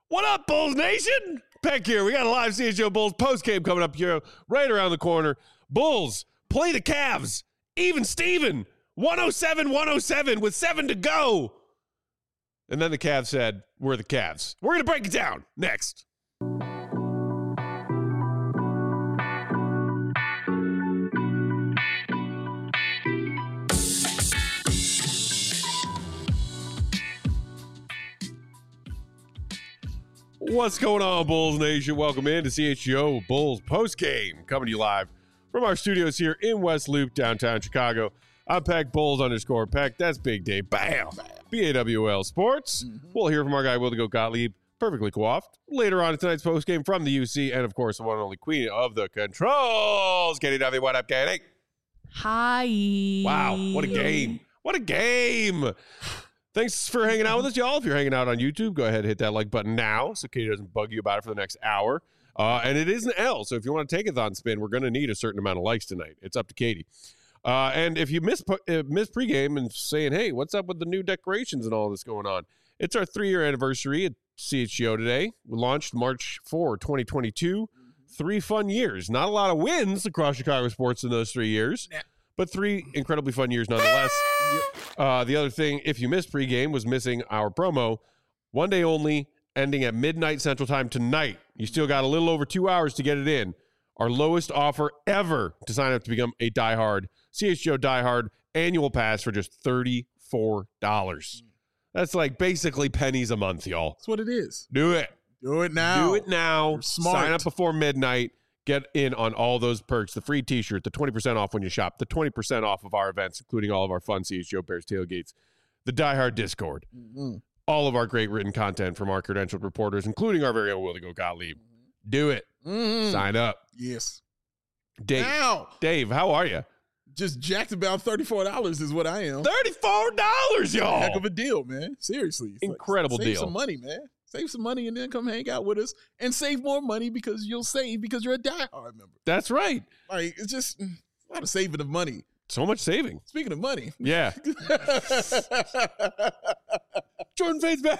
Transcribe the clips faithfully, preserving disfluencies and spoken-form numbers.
What up, Bulls Nation? Peck here. We got a live C H G O Bulls post-game coming up here right around the corner. Bulls play the Cavs. Even Steven, one oh seven one oh seven with seven to go. And then the Cavs said, we're the Cavs. We're going to break it down next. What's going on, Bulls Nation? Welcome in to C H G O Bulls postgame, coming to you live from our studios here in West Loop, downtown Chicago. I'm Peck, Bulls underscore Peck. That's Big Dave. Bam! B A W L Sports. Mm-hmm. We'll hear from our guy, Will the Go Gottlieb, perfectly coiffed, later on in tonight's postgame from the U C, and of course, the one and only queen of the controls, Katie Duffy. What up, Katie? Hi. Wow, what a game. What a game. Thanks for hanging out with us, y'all. If you're hanging out on YouTube, go ahead and hit that like button now so Katie doesn't bug you about it for the next hour. Uh, and it is an L, so if you want to take a thon spin, we're going to need a certain amount of likes tonight. It's up to Katie. Uh, and if you miss, uh, miss pregame and saying, hey, what's up with the new decorations and all this going on? It's our three-year anniversary at C H G O today. We launched March fourth, twenty twenty-two. Three fun years. Not a lot of wins across Chicago sports in those three years. Nah. But three incredibly fun years nonetheless. Uh, the other thing, if you missed pregame, was missing our promo. One day only, ending at midnight Central Time tonight. You still got a little over two hours to get it in. Our lowest offer ever to sign up to become a diehard C H G O diehard annual pass for just thirty-four dollars. That's like basically pennies a month, y'all. That's what it is. Do it. Do it now. Do it now. You're smart. Sign up before midnight. Get in on all those perks, the free t-shirt, the twenty percent off when you shop, the twenty percent off of our events, including all of our fun C H G O Bears tailgates, the Die Hard Discord, mm-hmm. all of our great written content from our credentialed reporters, including our very own Will the Go Gottlieb. Mm-hmm. Do it. Mm-hmm. Sign up. Yes. Dave, now. Dave, how are you? Just jacked about thirty-four dollars is what I am. thirty-four dollars, y'all. Heck of a deal, man. Seriously. It's incredible like, save deal. Save some money, man. Save some money and then come hang out with us and save more money because you'll save because you're a diehard member. That's right. Like, it's just a lot of saving of money. So much saving. Speaking of money. Yeah. Jordan Fade's back.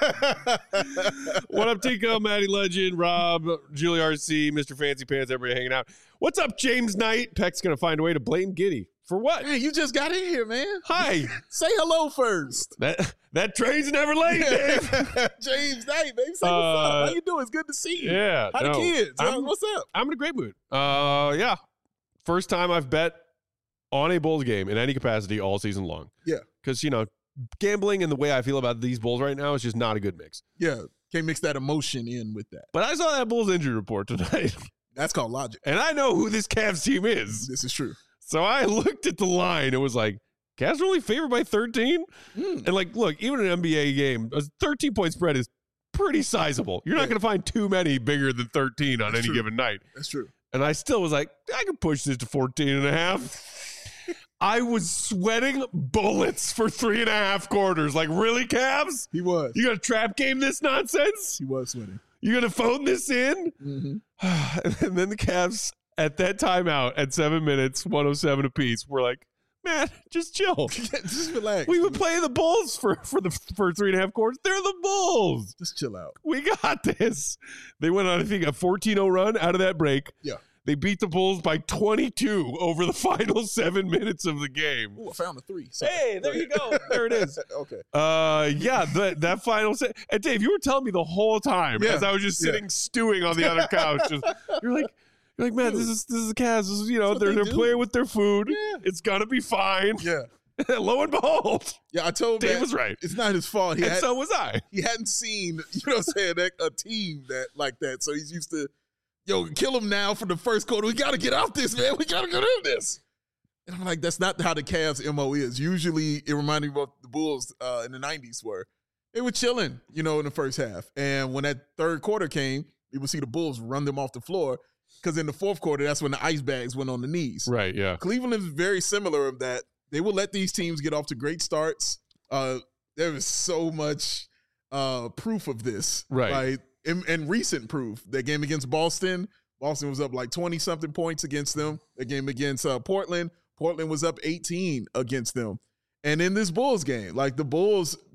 What up, Tico, Maddie Legend, Rob, Julie R C, Mister Fancy Pants, everybody hanging out. What's up, James Knight? Peck's going to find a way to blame Giddy. For what? Man, you just got in here, man. Hi. Say hello first. That that train's never late, Dave. James Knight, baby. Say what's uh, up. How you doing? It's good to see you. Yeah. How no, the kids? I'm, what's up? I'm in a great mood. Uh, yeah. First time I've bet on a Bulls game in any capacity all season long. Yeah. Because, you know, gambling and the way I feel about these Bulls right now is just not a good mix. Yeah. Can't mix that emotion in with that. But I saw that Bulls injury report tonight. That's called logic. And I know who this Cavs team is. This is true. So I looked at the line. It was like, Cavs are only favored by thirteen? Mm. And like, look, even an N B A game, a thirteen-point spread is pretty sizable. You're not yeah. going to find too many bigger than thirteen on That's any true. given night. That's true. And I still was like, I can push this to fourteen and a half. I was sweating bullets for three and a half quarters. Like, really, Cavs? He was. You going to trap game this nonsense? He was sweating. You going to phone this in? Mm-hmm. And then the Cavs, at that timeout, at seven minutes, one oh seven apiece, we're like, man, just chill. Just relax. We would play the Bulls for, for the for three and a half quarters. They're the Bulls. Just chill out. We got this. They went on, I think, a fourteen oh run out of that break. Yeah. They beat the Bulls by twenty-two over the final seven minutes of the game. Ooh, I found a three. Sorry. Hey, there you go. There it is. Okay. Uh, yeah, the, that final set. And Dave, you were telling me the whole time yeah. as I was just sitting yeah. stewing on the other couch. Just, you're like, you're like, man, this is this is the Cavs. This is, you know, they're they they're playing with their food. Yeah. It's gonna be fine. Yeah. Lo and behold. Yeah, I told Dave Matt, was right. It's not his fault. He and had, so was I. He hadn't seen, you know what I'm saying, that, a team that like that. So he's used to, yo, kill him now for the first quarter. We got to get off this, man. We got to get out of this. And I'm like, that's not how the Cavs M O is. Usually it reminded me of what the Bulls uh, in the nineties were. They were chilling, you know, in the first half. And when that third quarter came, you would see the Bulls run them off the floor because in the fourth quarter, that's when the ice bags went on the knees. Right, yeah. Cleveland is very similar of that. They will let these teams get off to great starts. Uh, there is so much uh, proof of this. Right. Like, and, and recent proof. That game against Boston, Boston was up like twenty-something points against them. The game against uh, Portland, Portland was up eighteen against them. And in this Bulls game, like the Bulls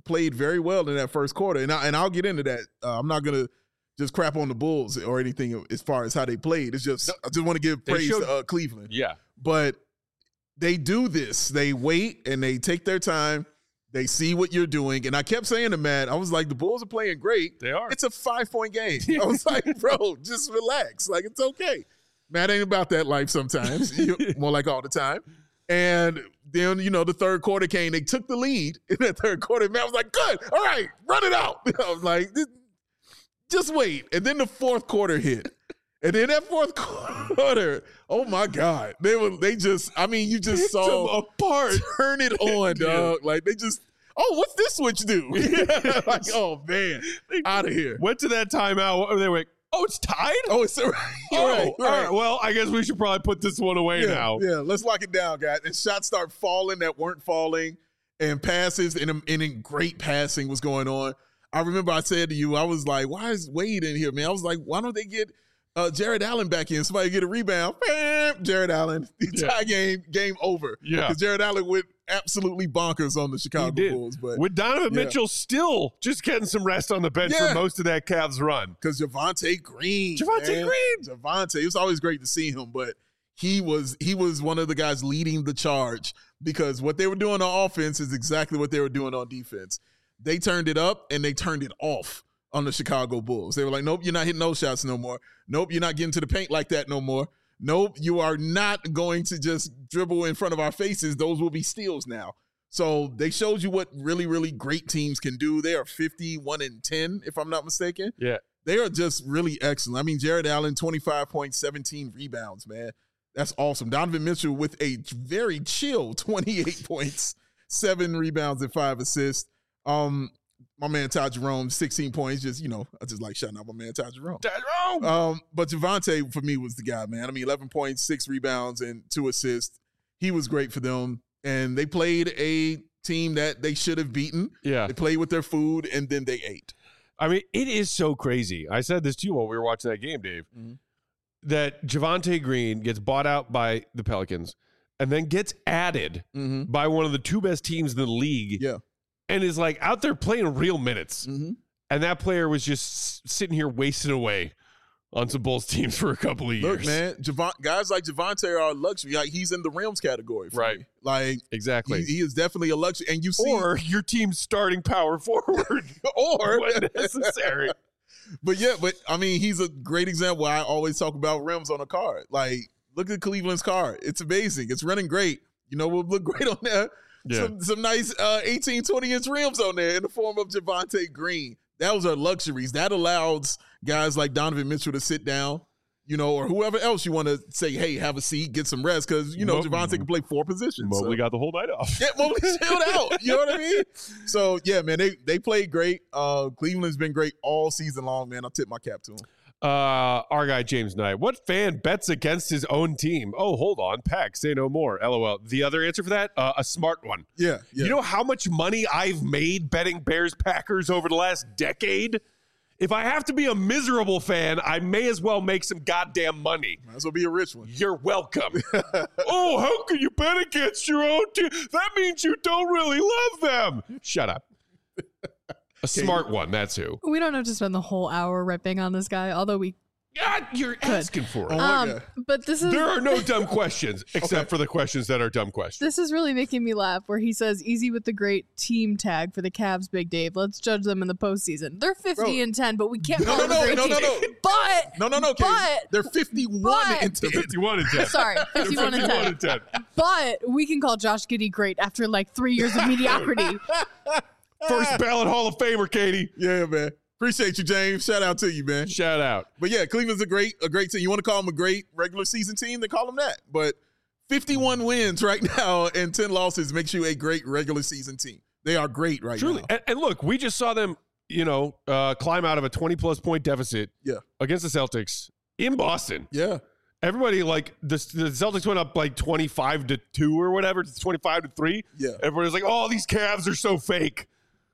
played very well in that first quarter, and I, and I'll get into that. Uh, I'm not gonna just crap on the Bulls or anything as far as how they played. It's just I just want to give praise showed, to uh, Cleveland. Yeah, but they do this. They wait and they take their time. They see what you're doing. And I kept saying to Matt, I was like, the Bulls are playing great. They are. It's a five-point game. I was like, bro, just relax. Like, it's okay. Matt ain't about that life sometimes. More like all the time. And then, you know, the third quarter came. They took the lead in that third quarter. Matt was like, good. All right, run it out. I was like, just wait. And then the fourth quarter hit. And then that fourth quarter, oh my God, they were they just I mean you just saw them apart. Turn it on, dog. Like they just oh what's this switch do? Like oh man, out of here. Went to that timeout. They were like, oh it's tied. Oh it's right. Oh, right, all right. Well, I guess we should probably put this one away yeah, now. Yeah, let's lock it down, guys. And shots start falling that weren't falling, and passes and and great passing was going on. I remember I said to you, I was like, why is Wade in here, man? I was like, why don't they get Uh, Jared Allen back in. Somebody get a rebound. Bam! Jared Allen. The entire yeah. game, game over. Yeah. Because Jared Allen went absolutely bonkers on the Chicago Bulls. But with Donovan yeah. Mitchell still just getting some rest on the bench yeah. for most of that Cavs run. Because Javonte Green. Javonte man. Green. Javonte. It was always great to see him, but he was he was one of the guys leading the charge because what they were doing on offense is exactly what they were doing on defense. They turned it up and they turned it off on the Chicago Bulls. They were like, nope, you're not hitting those shots no more. Nope, you're not getting to the paint like that no more. Nope, you are not going to just dribble in front of our faces. Those will be steals now. So they showed you what really, really great teams can do. They are fifty-one and ten, if I'm not mistaken. Yeah. They are just really excellent. I mean, Jared Allen, twenty-five points, seventeen rebounds, man. That's awesome. Donovan Mitchell with a very chill twenty-eight points, seven rebounds, and five assists. Um, My man Ty Jerome, sixteen points. Just, you know, I just like shouting out my man Ty Jerome. Ty Jerome! Um, but Javonte, for me, was the guy, man. I mean, eleven points, six rebounds, and two assists. He was great for them. And they played a team that they should have beaten. Yeah. They played with their food, and then they ate. I mean, it is so crazy. I said this to you while we were watching that game, Dave, mm-hmm. that Javonte Green gets bought out by the Pelicans and then gets added mm-hmm. by one of the two best teams in the league. Yeah. And is like out there playing real minutes. Mm-hmm. And that player was just sitting here wasting away on some Bulls teams for a couple of years. Look, man, Javon, guys like Javonte are a luxury. Like, he's in the rims category. For right. me. Like, exactly. He, he is definitely a luxury. And you see. Or your team's starting power forward. or. when necessary. But yeah, but I mean, he's a great example. I always talk about rims on a car. Like, look at Cleveland's car. It's amazing. It's running great. You know, we'll look great on there. Yeah. Some, some nice uh, eighteen, twenty-inch rims on there in the form of Javonte Green. Those are luxuries. That allows guys like Donovan Mitchell to sit down, you know, or whoever else you want to say, hey, have a seat, get some rest, because, you know, Mo- Javonte can play four positions. Mobley so. got the whole night off. Yeah, Mobley chilled out. You know what I mean? So, yeah, man, they they played great. Uh, Cleveland's been great all season long, man. I'll tip my cap to them. Uh, our guy James Knight. What fan bets against his own team? Oh, hold on. Pack, say no more. LOL. The other answer for that? Uh, a smart one. Yeah, yeah. You know how much money I've made betting Bears Packers over the last decade? If I have to be a miserable fan, I may as well make some goddamn money. Might as well be a rich one. You're welcome. Oh, how can you bet against your own team? That means you don't really love them. Shut up. A smart one, that's who. We don't have to spend the whole hour ripping on this guy, although we God, you're could. asking for it. Oh um, but this is There are no dumb questions, except okay. for the questions that are dumb questions. This is really making me laugh, where he says, easy with the great team tag for the Cavs, Big Dave. Let's judge them in the postseason. They're fifty Bro. and ten, but we can't no, call no, them a great no, no, team. no, no. But, no, no, no, Katie. but, they're fifty-one but, and ten. fifty-one and ten. Sorry, fifty-one and ten. and ten. But we can call Josh Giddey great after like three years of mediocrity. First ballot Hall of Famer, Katie. Yeah, man. Appreciate you, James. Shout out to you, man. Shout out. But yeah, Cleveland's a great, a great team. You want to call them a great regular season team, then call them that. But fifty-one wins right now and ten losses makes you a great regular season team. They are great right Truly. now. And, and look, we just saw them, you know, uh, climb out of a twenty-plus point deficit yeah. against the Celtics in Boston. Yeah. Everybody, like, the, the Celtics went up like twenty-five to two or whatever, twenty-five to three. Yeah. Everybody's like, oh, these Cavs are so fake.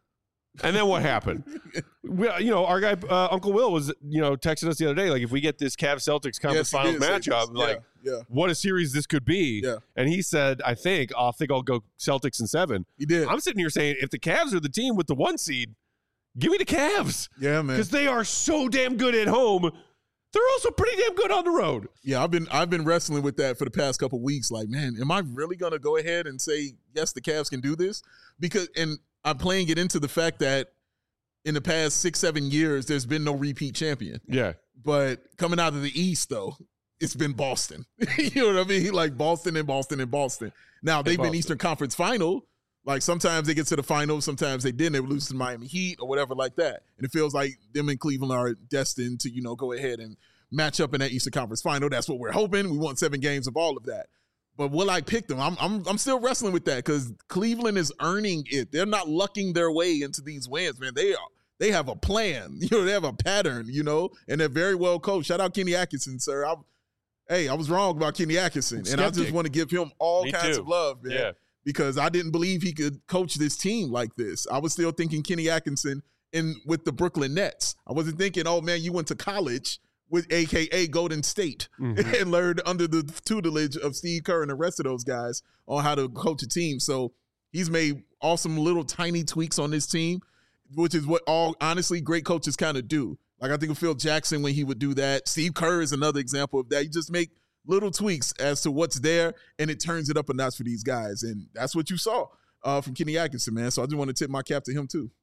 And then what happened? We, you know, our guy uh, Uncle Will was, you know, texting us the other day, like, if we get this Cavs Celtics conference Yes, he finals did say matchup, this. like, Yeah, yeah. what a series this could be. Yeah. And he said, I think, I think I'll go Celtics in seven. He did. I'm sitting here saying, if the Cavs are the team with the one seed, give me the Cavs. Yeah, man. Because they are so damn good at home. They're also pretty damn good on the road. Yeah, I've been I've been wrestling with that for the past couple of weeks. Like, man, am I really gonna go ahead and say yes, the Cavs can do this? Because, and I'm playing it into the fact that in the past six, seven years, there's been no repeat champion. Yeah. But coming out of the East, though, it's been Boston. You know what I mean? Like Boston and Boston and Boston. Now they've Boston. been Eastern Conference Final. Like sometimes they get to the finals, sometimes they didn't. They would lose to the Miami Heat or whatever like that. And it feels like them and Cleveland are destined to, you know, go ahead and match up in that Eastern Conference Final. That's what we're hoping. We want seven games of all of that. But will I pick them? I'm I'm I'm still wrestling with that because Cleveland is earning it. They're not lucking their way into these wins, man. They are. They have a plan. You know, they have a pattern, you know, and they're very well coached. Shout out Kenny Atkinson, sir. I, hey, I was wrong about Kenny Atkinson, and I just want to give him all Me kinds too. of love, man. Yeah. Because I didn't believe he could coach this team like this. I was still thinking Kenny Atkinson in with the Brooklyn Nets. I wasn't thinking, oh man, you went to college with A K A Golden State Mhm. and learned under the tutelage of Steve Kerr and the rest of those guys on how to coach a team. So he's made awesome little tiny tweaks on this team, which is what all honestly great coaches kind of do. Like I think of Phil Jackson when he would do that. Steve Kerr is another example of that. You just make little tweaks as to what's there, and it turns it up a notch for these guys. And that's what you saw uh, from Kenny Atkinson, man. So I just want to tip my cap to him too.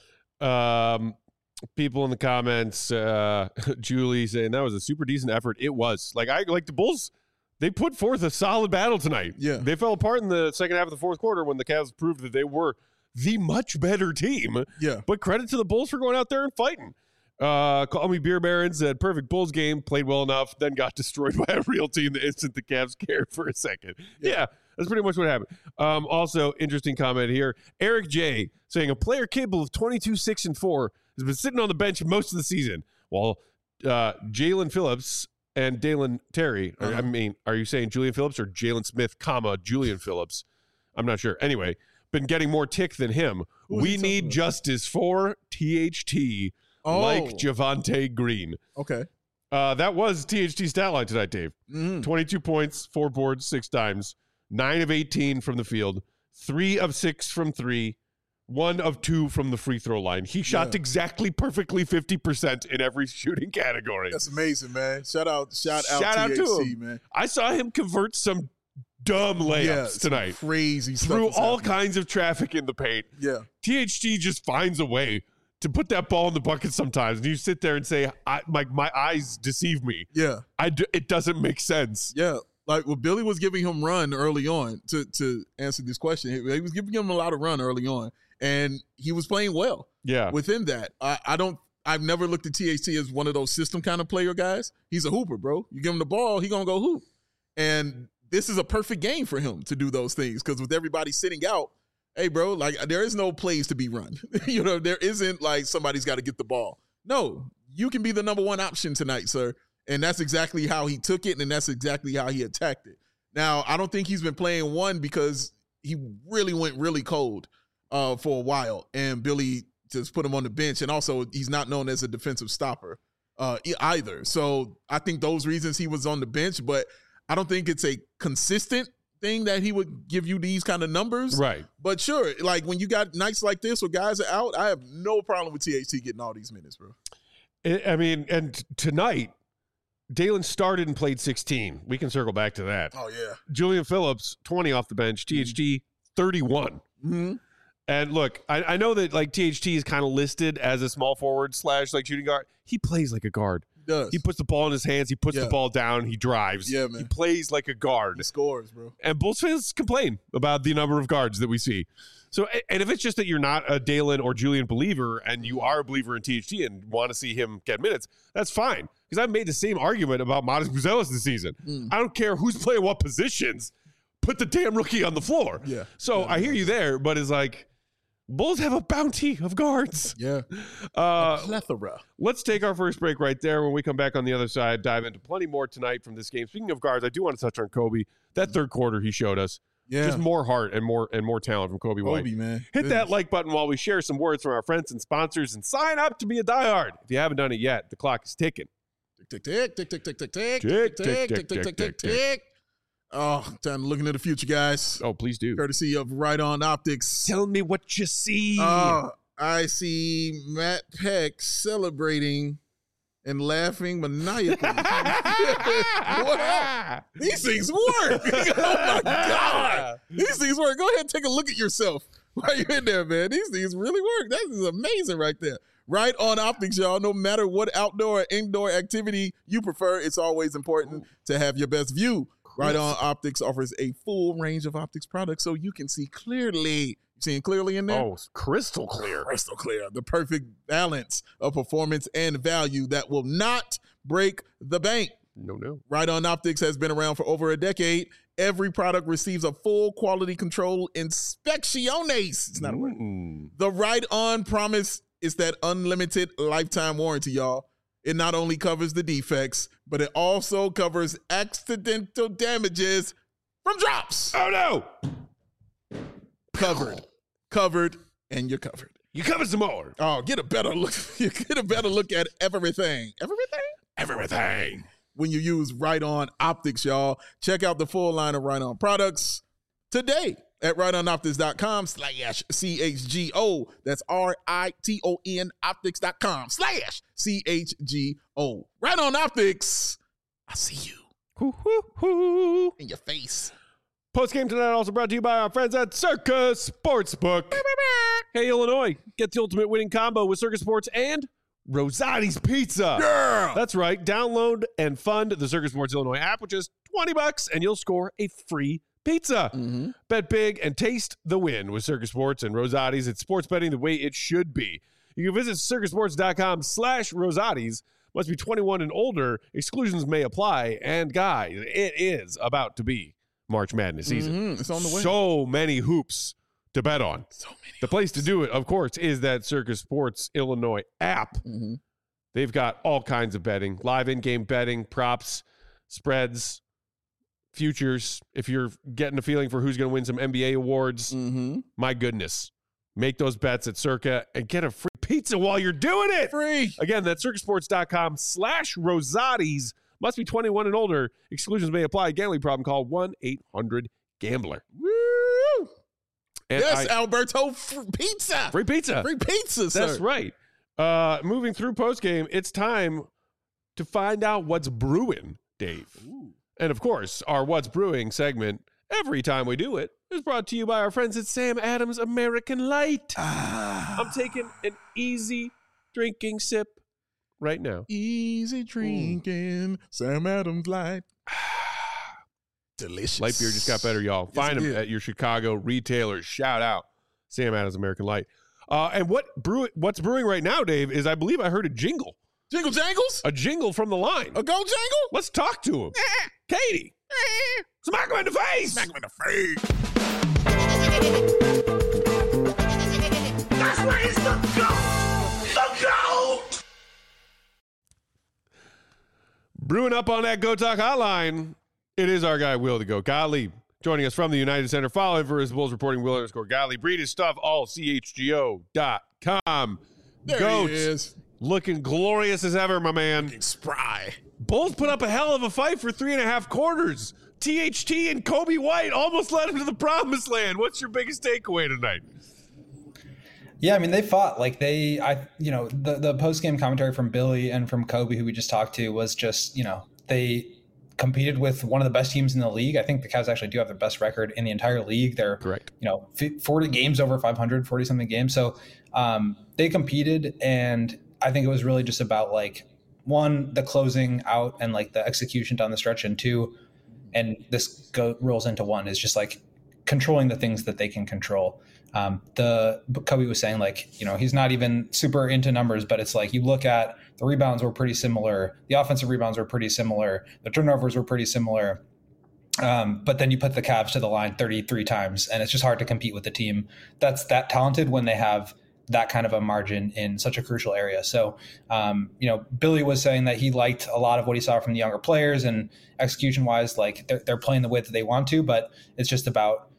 Um, people in the comments, uh, Julie saying that was a super decent effort. It was. Like I like the Bulls. They put forth a solid battle tonight. Yeah. They fell apart in the second half of the fourth quarter when the Cavs proved that they were the much better team. Yeah. But credit to the Bulls for going out there and fighting. Uh, Call Me Beer Barons said perfect Bulls game, played well enough, then got destroyed by a real team the instant the Cavs cared for a second. Yeah, Yeah. that's pretty much what happened. Um, also, interesting comment here. Eric J saying a player capable of twenty-two, six, and four has been sitting on the bench most of the season, while uh, Jalen Phillips and Dalen Terry, or, Uh-huh. I mean, are you saying Julian Phillips or Jalen Smith, comma, Julian Phillips? I'm not sure. Anyway, been getting more tick than him. Who was We he talking need about? justice for T H T. Oh. Like Javante Green. Okay. Uh, that was T H T's stat line tonight, Dave. Mm. twenty-two points, four boards, six times, nine of eighteen from the field, three of six from three, one of two from the free throw line. He shot Yeah. exactly perfectly fifty percent in every shooting category. That's amazing, man. Shout out, shout out, Shout out T H to C, him. man. I saw him convert some dumb layups Yeah, some tonight Crazy stuff. through is all happening. kinds of traffic in the paint. Yeah. T H T just finds a way to put that ball in the bucket sometimes. And you sit there and say, I, my, my eyes deceive me. Yeah. I do, it doesn't make sense. Yeah. Like, well, Billy was giving him run early on to, to answer this question. He, he was giving him a lot of run early on, and he was playing well Yeah. within that. I, I don't, I've never looked at T H T as one of those system kind of player guys. He's a hooper, bro. You give him the ball, he going to go hoop. And this is a perfect game for him to do those things because with everybody sitting out, hey, bro, like there is no plays to be run. You know, there isn't like somebody's got to get the ball. No, you can be the number one option tonight, sir. And that's exactly how he took it, and that's exactly how he attacked it. Now, I don't think he's been playing one because he really went really cold uh, for a while, and Billy just put him on the bench. And also, he's not known as a defensive stopper uh, e- either. So I think those reasons he was on the bench, but I don't think it's a consistent thing that he would give you these kind of numbers. Right. But sure, like when you got nights like this where guys are out, I have no problem with T H T getting all these minutes, bro. I I mean, and tonight, Dalen started and played sixteen. We can circle back to that. Oh, yeah. Julian Phillips, twenty off the bench. T H T, thirty-one. Mm-hmm. And look, I, I know that like T H T is kind of listed as a small forward slash like shooting guard. He plays like a guard. He does. He puts the ball in his hands. He puts Yeah. the ball down. He drives. Yeah, He man. plays like a guard. He scores, bro. And Bulls fans complain about the number of guards that we see. So, and if it's just that you're not a Dalen or Julian believer and you are a believer in T H T and want to see him get minutes, that's fine. Because I've made the same argument about Modest Buzelis this season. Mm. I don't care who's playing what positions. Put the damn rookie on the floor. Yeah. So Yeah, I hear you there, but it's like, Bulls have a bounty of guards. Yeah. Uh, Plethora. Let's take our first break right there. When we come back on the other side, dive into plenty more tonight from this game. Speaking of guards, I do want to touch on Kobe. That third quarter he showed us, Yeah. Just more heart and more and more talent from Kobe, White. Kobe, man. Hit Goodness. that like button while we share some words from our friends and sponsors and sign up to be a diehard. If you haven't done it yet, the clock is ticking. Tick, tick, tick, tick, tick, tick, tick, Tick, tick, tick, tick, tick, tick, tick, tick. Oh, time to look into the future, guys. Oh, please do. Courtesy of Right On Optics. Tell me what you see. Oh, I see Matt Peck celebrating and laughing maniacally. What? These things work. Oh my God. These things work. Go ahead and take a look at yourself while you're in there, man. These things really work. That is amazing right there. Right On Optics, y'all. No matter what outdoor or indoor activity you prefer, it's always important to have your best view. Right On Optics offers a full range of optics products so you can see clearly. You seeing clearly in there? Oh, crystal clear. Crystal clear. The perfect balance of performance and value that will not break the bank. No, no. Right On Optics has been around for over a decade. Every product receives a full quality control inspecciones. It's not a word. Mm. The Right On promise is that unlimited lifetime warranty, y'all. It not only covers the defects, but it also covers accidental damages from drops. Oh, no. Covered. Covered, and you're covered. You covered some more. Oh, get a better look. You get a better look at everything. Everything? Everything. When you use Right On Optics, y'all. Check out the full line of Right On products today at right on optics dot com slash C H G O. That's R I T O N optics dot com slash C H G O. Right On Optics. I see you. Hoo, hoo, hoo. In your face. Post game tonight also brought to you by our friends at Circus Sportsbook. Hey, Illinois, get the ultimate winning combo with Circus Sports and Rosati's Pizza. Yeah. That's right. Download and fund the Circus Sports Illinois app, which is twenty bucks, and you'll score a free pizza. Mm-hmm. Bet big and taste the win with Circus Sports and Rosati's. It's sports betting the way it should be. You can visit circus sports dot com slash Rosati's. Must be twenty-one and older. Exclusions may apply. And guys, it is about to be March Madness season. Mm-hmm. It's on the way. So many hoops to bet on. So many. The place to do it, of course, is that Circus Sports Illinois app. Mm-hmm. They've got all kinds of betting, live in-game betting, props, spreads, futures. If you're getting a feeling for who's going to win some N B A awards, Mm-hmm. my goodness, make those bets at Circa and get a free pizza while you're doing it. Free. Again, that's circus sports dot com slash Rosati's. Must be twenty-one and older. Exclusions may apply. Gambling problem, call one eight hundred gambler. Woo! And yes, I- Alberto, f- pizza. free pizza. Free pizza, sir. That's right. Uh, moving through postgame, it's time to find out what's brewing, Dave. Ooh. And of course, our What's Brewing segment, every time we do it, is brought to you by our friends at Sam Adams American Light. Ah. I'm taking an easy drinking sip right now. Easy drinking, Sam Adams Light. Delicious. Light beer just got better, y'all. Yes, Find it them did. at your Chicago retailers. Shout out Sam Adams American Light. Uh, and what brew, what's brewing right now, Dave, is I believe I heard a jingle. Jingle jangles? A jingle from the line. A go jangle? Let's talk to him. Katie, smack him in the face. Smack him in the face. That's where he's the goat! The goat! Brewing up on that Go Talk hotline, it is our guy, Will the Goat Gottlieb, joining us from the United Center. Follow him for his Bulls reporting, Will underscore Gottlieb. Read his stuff, all C H G O dot com. There Goat, he is. looking glorious as ever, my man. Looking spry. Bulls put up a hell of a fight for three and a half quarters. T H T and Kobe White almost led him to the promised land. What's your biggest takeaway tonight? Yeah, I mean, they fought like they, I, you know, the, the post game commentary from Billy and from Kobe, who we just talked to, was just, you know, they competed with one of the best teams in the league. I think the Cavs actually do have the best record in the entire league. They're Correct. You know, forty games over five hundred, forty something games. So um, they competed, and I think it was really just about like one, the closing out and like the execution down the stretch, and two, and this go rolls into one, is just like controlling the things that they can control. Um, the Kobe was saying, like, you know, he's not even super into numbers, but it's like you look at the rebounds were pretty similar. The offensive rebounds were pretty similar. The turnovers were pretty similar. Um, but then you put the Cavs to the line thirty-three times, and it's just hard to compete with a team that's that talented when they have that kind of a margin in such a crucial area. So, um, you know, Billy was saying that he liked a lot of what he saw from the younger players, and execution wise, like they're, they're playing the way that they want to, but it's just about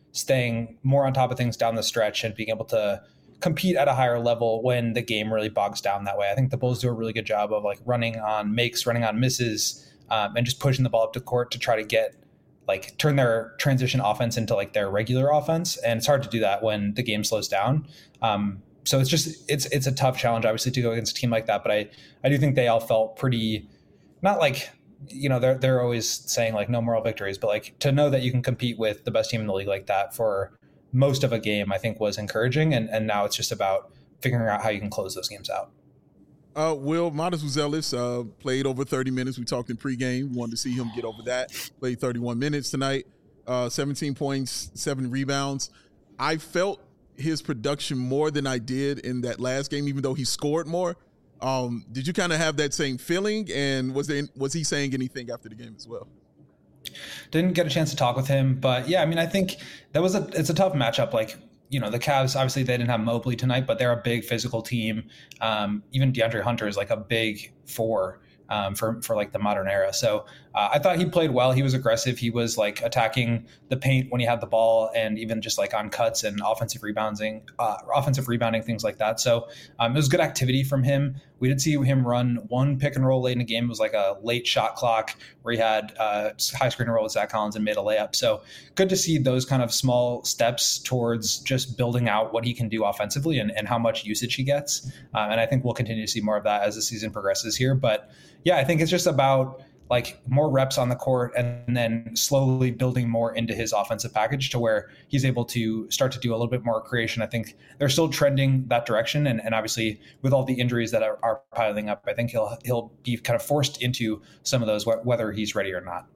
staying more on top of things down the stretch and being able to compete at a higher level when the game really bogs down that way. I think the Bulls do a really good job of like running on makes, running on misses, um, and just pushing the ball up to court to try to get like turn their transition offense into like their regular offense. And it's hard to do that when the game slows down. Um, so it's just, it's, it's a tough challenge, obviously, to go against a team like that. But I, I do think they all felt pretty, not like, you know, they're, they're always saying like no moral victories, but like to know that you can compete with the best team in the league like that for most of a game, I think was encouraging. And, and now it's just about figuring out how you can close those games out. Uh, Will, Modest Uzelis uh, played over thirty minutes. We talked in pregame. We wanted to see him get over that. Played thirty-one minutes tonight, uh, seventeen points, seven rebounds. I felt his production more than I did in that last game, even though he scored more. Um, did you kind of have that same feeling? And was there was he saying anything after the game as well? Didn't get a chance to talk with him, but yeah, I mean, I think that was a it's a tough matchup. Like, you know, the Cavs, obviously they didn't have Mobley tonight, but they're a big physical team. Um, even DeAndre Hunter is like a big four um, for, for like the modern era. So uh, I thought he played well. He was aggressive. He was like attacking the paint when he had the ball, and even just like on cuts and offensive rebounding, uh, offensive rebounding, things like that. So um, it was good activity from him. We did see him run one pick and roll late in the game. It was like a late shot clock where he had uh, high screen and roll with Zach Collins and made a layup. So good to see those kind of small steps towards just building out what he can do offensively and, and how much usage he gets. Um, and I think we'll continue to see more of that as the season progresses here. But yeah, I think it's just about like more reps on the court and then slowly building more into his offensive package to where he's able to start to do a little bit more creation. I think they're still trending that direction. And, and obviously with all the injuries that are, are piling up, I think he'll, he'll be kind of forced into some of those, wh- whether he's ready or not.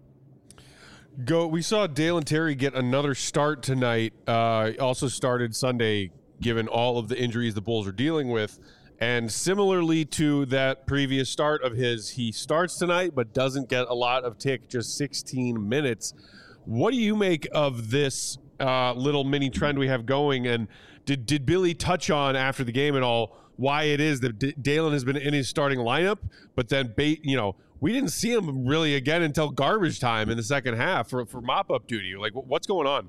Go. We saw Dalen Terry get another start tonight. Uh, also started Sunday, given all of the injuries the Bulls are dealing with. And similarly to that previous start of his, he starts tonight but doesn't get a lot of tick, just sixteen minutes. What do you make of this uh, little mini trend we have going? And did did Billy touch on after the game at all why it is that D- Dalen has been in his starting lineup, but then, bait, you know, we didn't see him really again until garbage time in the second half for, for mop-up duty? Like, what's going on?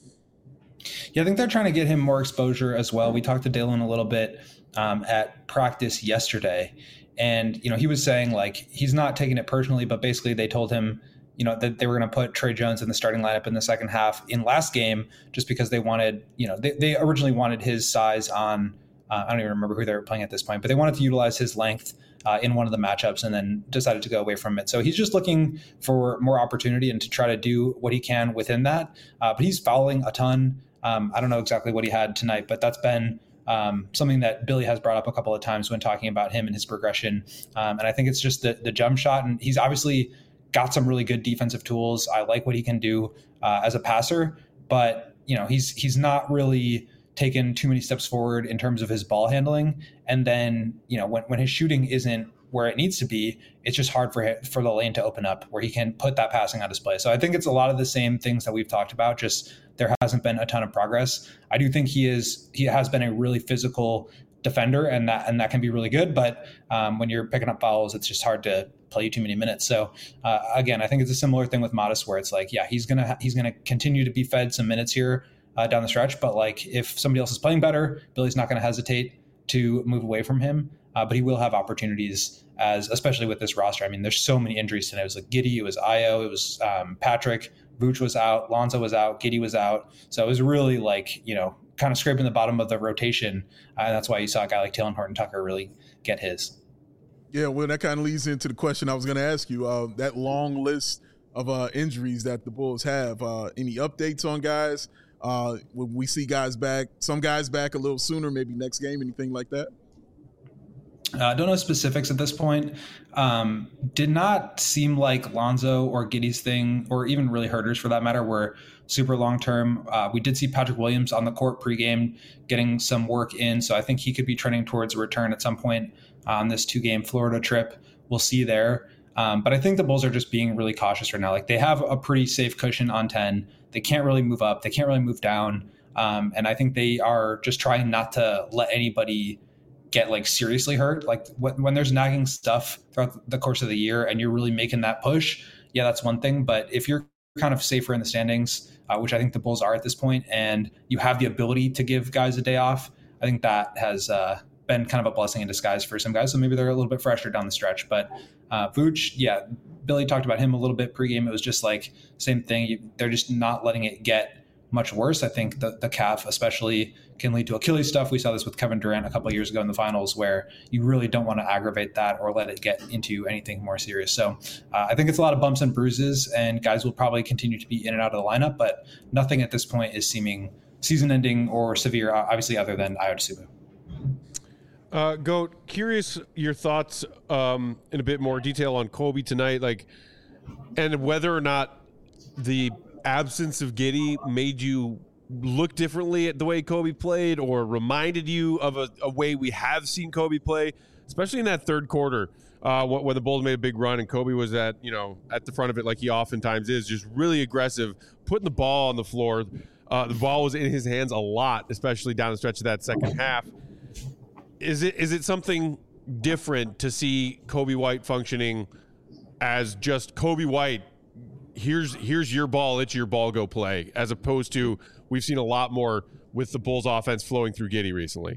Yeah, I think they're trying to get him more exposure as well. We talked to Dalen a little bit um, at practice yesterday, and, you know, he was saying like he's not taking it personally, but basically they told him, you know, that they were going to put Trey Jones in the starting lineup in the second half in last game just because they wanted, you know, they, they originally wanted his size on, uh, I don't even remember who they were playing at this point, but they wanted to utilize his length uh, in one of the matchups and then decided to go away from it. So he's just looking for more opportunity and to try to do what he can within that. Uh, but he's fouling a ton. Um, I don't know exactly what he had tonight, but that's been um, something that Billy has brought up a couple of times when talking about him and his progression. Um, and I think it's just the, the jump shot. And he's obviously got some really good defensive tools. I like what he can do uh, as a passer, but, you know, he's he's not really taken too many steps forward in terms of his ball handling. And then, you know, when, when his shooting isn't where it needs to be, it's just hard for him, for the lane to open up where he can put that passing on display. So I think it's a lot of the same things that we've talked about, just there hasn't been a ton of progress. I do think he is, he has been a really physical defender, and that, and that can be really good. But um, when you're picking up fouls, it's just hard to play you too many minutes. So uh, again, I think it's a similar thing with Modest where it's like, yeah, he's going to, ha- he's going to continue to be fed some minutes here uh, down the stretch. But like if somebody else is playing better, Billy's not going to hesitate to move away from him. Uh, but he will have opportunities as, especially with this roster. I mean, there's so many injuries tonight. It was like Giddey, it was Ayo, it was um, Patrick, Vooch was out, Lonzo was out, Giddey was out. So it was really like, you know, kind of scraping the bottom of the rotation. Uh, and that's why you saw a guy like Talen Horton-Tucker really get his. Yeah, well, that kind of leads into the question I was going to ask you. Uh, that long list of uh, injuries that the Bulls have, uh, any updates on guys? Uh, when we see guys back, some guys back a little sooner, maybe next game, anything like that? I uh, don't know specifics at this point. Um, did not seem like Lonzo or Giddey's thing, or even really Herter's for that matter, were super long-term. Uh, we did see Patrick Williams on the court pregame getting some work in, so I think he could be trending towards a return at some point on this two-game Florida trip. We'll see there. Um, but I think the Bulls are just being really cautious right now. Like, they have a pretty safe cushion on ten. They can't really move up. They can't really move down. Um, and I think they are just trying not to let anybody get like seriously hurt. Like when, when there's nagging stuff throughout the course of the year and you're really making that push, yeah, that's one thing. But if you're kind of safer in the standings, uh, which I think the Bulls are at this point, and you have the ability to give guys a day off, I think that has uh, been kind of a blessing in disguise for some guys. So maybe they're a little bit fresher down the stretch. But uh, Vooch, yeah, Billy talked about him a little bit pregame. It was just like same thing. You, they're just not letting it get much worse. I think the, the calf especially can lead to Achilles stuff. We saw this with Kevin Durant a couple of years ago in the finals, where you really don't want to aggravate that or let it get into anything more serious. So uh, I think it's a lot of bumps and bruises, and guys will probably continue to be in and out of the lineup, but nothing at this point is seeming season ending or severe, obviously, other than Ayo Dosunmu. Uh, Goat, curious your thoughts um, in a bit more detail on Kobe tonight, like, and whether or not the absence of Giddey made you look differently at the way Kobe played, or reminded you of a, a way we have seen Kobe play, especially in that third quarter, uh, when the Bulls made a big run and Kobe was at, you know, at the front of it like he oftentimes is, just really aggressive, putting the ball on the floor. Uh, the ball was in his hands a lot, especially down the stretch of that second half. Is it is it something different to see Kobe White functioning as just Kobe White? Here's here's your ball, it's your ball, go play, as opposed to we've seen a lot more with the Bulls offense flowing through Giddey recently.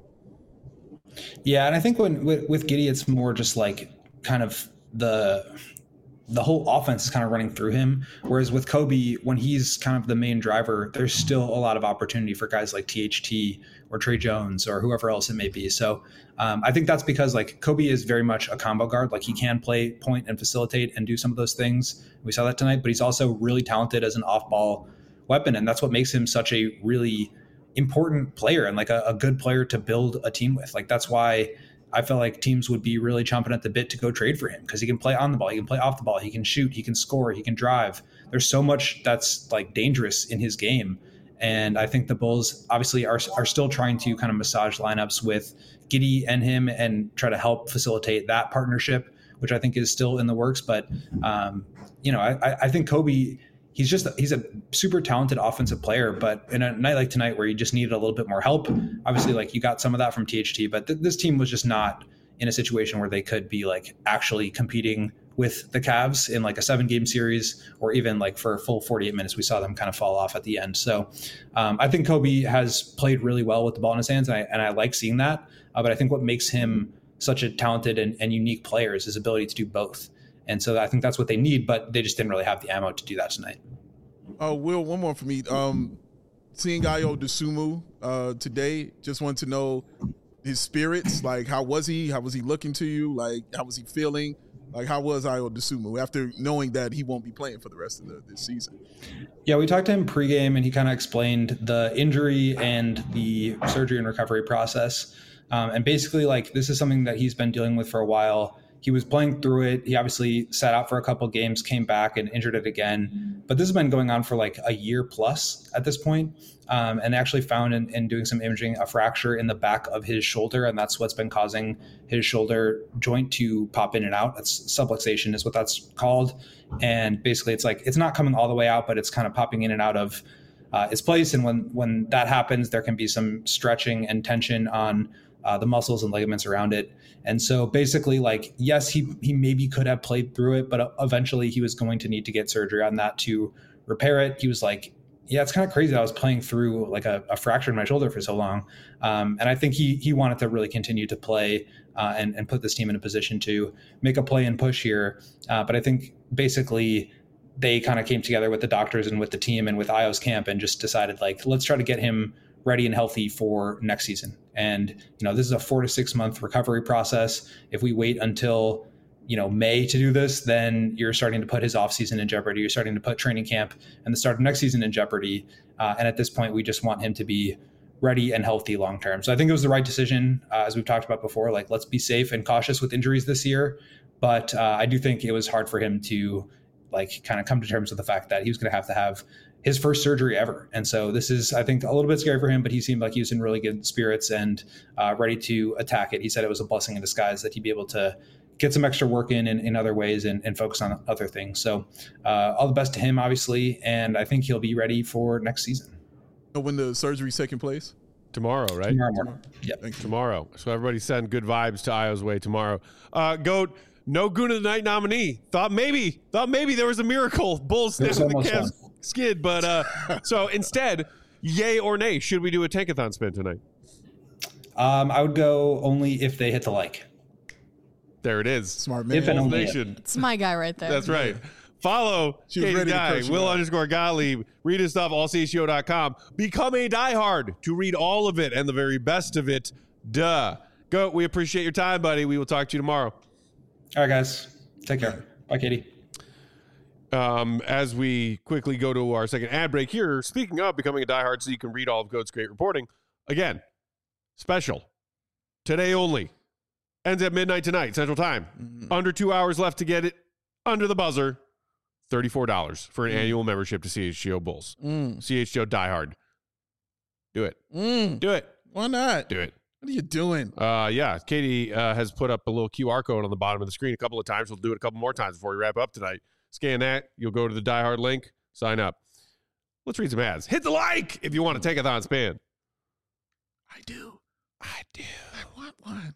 Yeah, and I think when with, with Giddey, it's more just like kind of the the whole offense is kind of running through him. Whereas with Kobe, when he's kind of the main driver, there's still a lot of opportunity for guys like T H T or Trey Jones or whoever else it may be. So um, I think that's because like Kobe is very much a combo guard. Like he can play point and facilitate and do some of those things. We saw that tonight, but he's also really talented as an off-ball weapon. And that's what makes him such a really important player and like a, a good player to build a team with. Like that's why I feel like teams would be really chomping at the bit to go trade for him, because he can play on the ball, he can play off the ball, he can shoot, he can score, he can drive. There's so much that's like dangerous in his game. And I think the Bulls obviously are are still trying to kind of massage lineups with Giddey and him and try to help facilitate that partnership, which I think is still in the works. But, um, you know, I, I think Kobe, he's just he's a super talented offensive player, but in a night like tonight where you just needed a little bit more help, obviously like you got some of that from T H T, but th- this team was just not in a situation where they could be like actually competing with the Cavs in like a seven game series, or even like for a full forty-eight minutes. We saw them kind of fall off at the end. So um, I think Kobe has played really well with the ball in his hands, and I, and I like seeing that. Uh, but I think what makes him such a talented and, and unique player is his ability to do both. And so I think that's what they need, but they just didn't really have the ammo to do that tonight. Uh, Will, one more for me. Um, seeing Ayo Dosunmu uh, today, just want to know his spirits. Like, how was he? How was he looking to you? Like, how was he feeling? Like, how was Ayo Dosunmu after knowing that he won't be playing for the rest of the, this season? Yeah, we talked to him pregame, and he kind of explained the injury and the surgery and recovery process. Um, and basically, like, this is something that he's been dealing with for a while. He was playing through it. He obviously sat out for a couple of games, came back and injured it again. But this has been going on for like a year plus at this point. Um, and they actually found in, in doing some imaging a fracture in the back of his shoulder. And that's what's been causing his shoulder joint to pop in and out. That's subluxation is what that's called. And basically it's like, it's not coming all the way out, but it's kind of popping in and out of uh, its place. And when, when that happens, there can be some stretching and tension on Uh, the muscles and ligaments around it. And so basically, like, yes, he he maybe could have played through it, but eventually he was going to need to get surgery on that to repair it. He was like, yeah, it's kind of crazy that I was playing through like a, a fracture in my shoulder for so long. Um, and I think he he wanted to really continue to play uh, and, and put this team in a position to make a play and push here. Uh, but I think basically they kind of came together with the doctors and with the team and with Ayo's camp and just decided, like, let's try to get him ready and healthy for next season. And, you know, this is a four to six month recovery process. If we wait until, you know, May to do this, then you're starting to put his off season in jeopardy. You're starting to put training camp and the start of next season in jeopardy. Uh, and at this point, we just want him to be ready and healthy long term. So I think it was the right decision, uh, as we've talked about before. Like, let's be safe and cautious with injuries this year. But uh, I do think it was hard for him to, like, kind of come to terms with the fact that he was going to have to have his first surgery ever. And so this is, I think, a little bit scary for him, but he seemed like he was in really good spirits and uh, ready to attack it. He said it was a blessing in disguise that he'd be able to get some extra work in in, in other ways and, and focus on other things. So uh, all the best to him, obviously. And I think he'll be ready for next season. When the surgery's taking place? Tomorrow, right? Tomorrow morning. Yeah. Tomorrow. So everybody send good vibes to Ayo's way tomorrow. Uh, Goat, no Goon of the Night nominee. Thought maybe, thought maybe there was a miracle. Bulls It was snapping the almost Cavs. one. skid. But uh, so instead, yay or nay, should we do a tankathon spin tonight? Um, I would go only if they hit the like. There it is. Smart man. If and only Nation. It's my guy right there. That's right. Follow She was Katie ready to Dye, curse you Will out. underscore Gottlieb. Read his stuff, all c h g o dot com. Become a diehard to read all of it and the very best of it. Duh. Go. We appreciate your time, buddy. We will talk to you tomorrow. All right, guys. Take care. Bye, Katie. Um, as we quickly go to our second ad break here, speaking of becoming a diehard so you can read all of Goat's great reporting, again, special. Today only. Ends at midnight tonight, Central Time. Mm-hmm. Under two hours left to get it under the buzzer. thirty-four dollars for an Mm. annual membership to C H G O Bulls. Mm. C H G O Die Hard. Do it. Mm. Do it. Why not? Do it. What are you doing? Uh, yeah, Katie uh, has put up a little Q R code on the bottom of the screen a couple of times. We'll do it a couple more times before we wrap up tonight. Scan that. You'll go to the Die Hard link. Sign up. Let's read some ads. Hit the like if you want to take a thon span. I do. I do. I want one.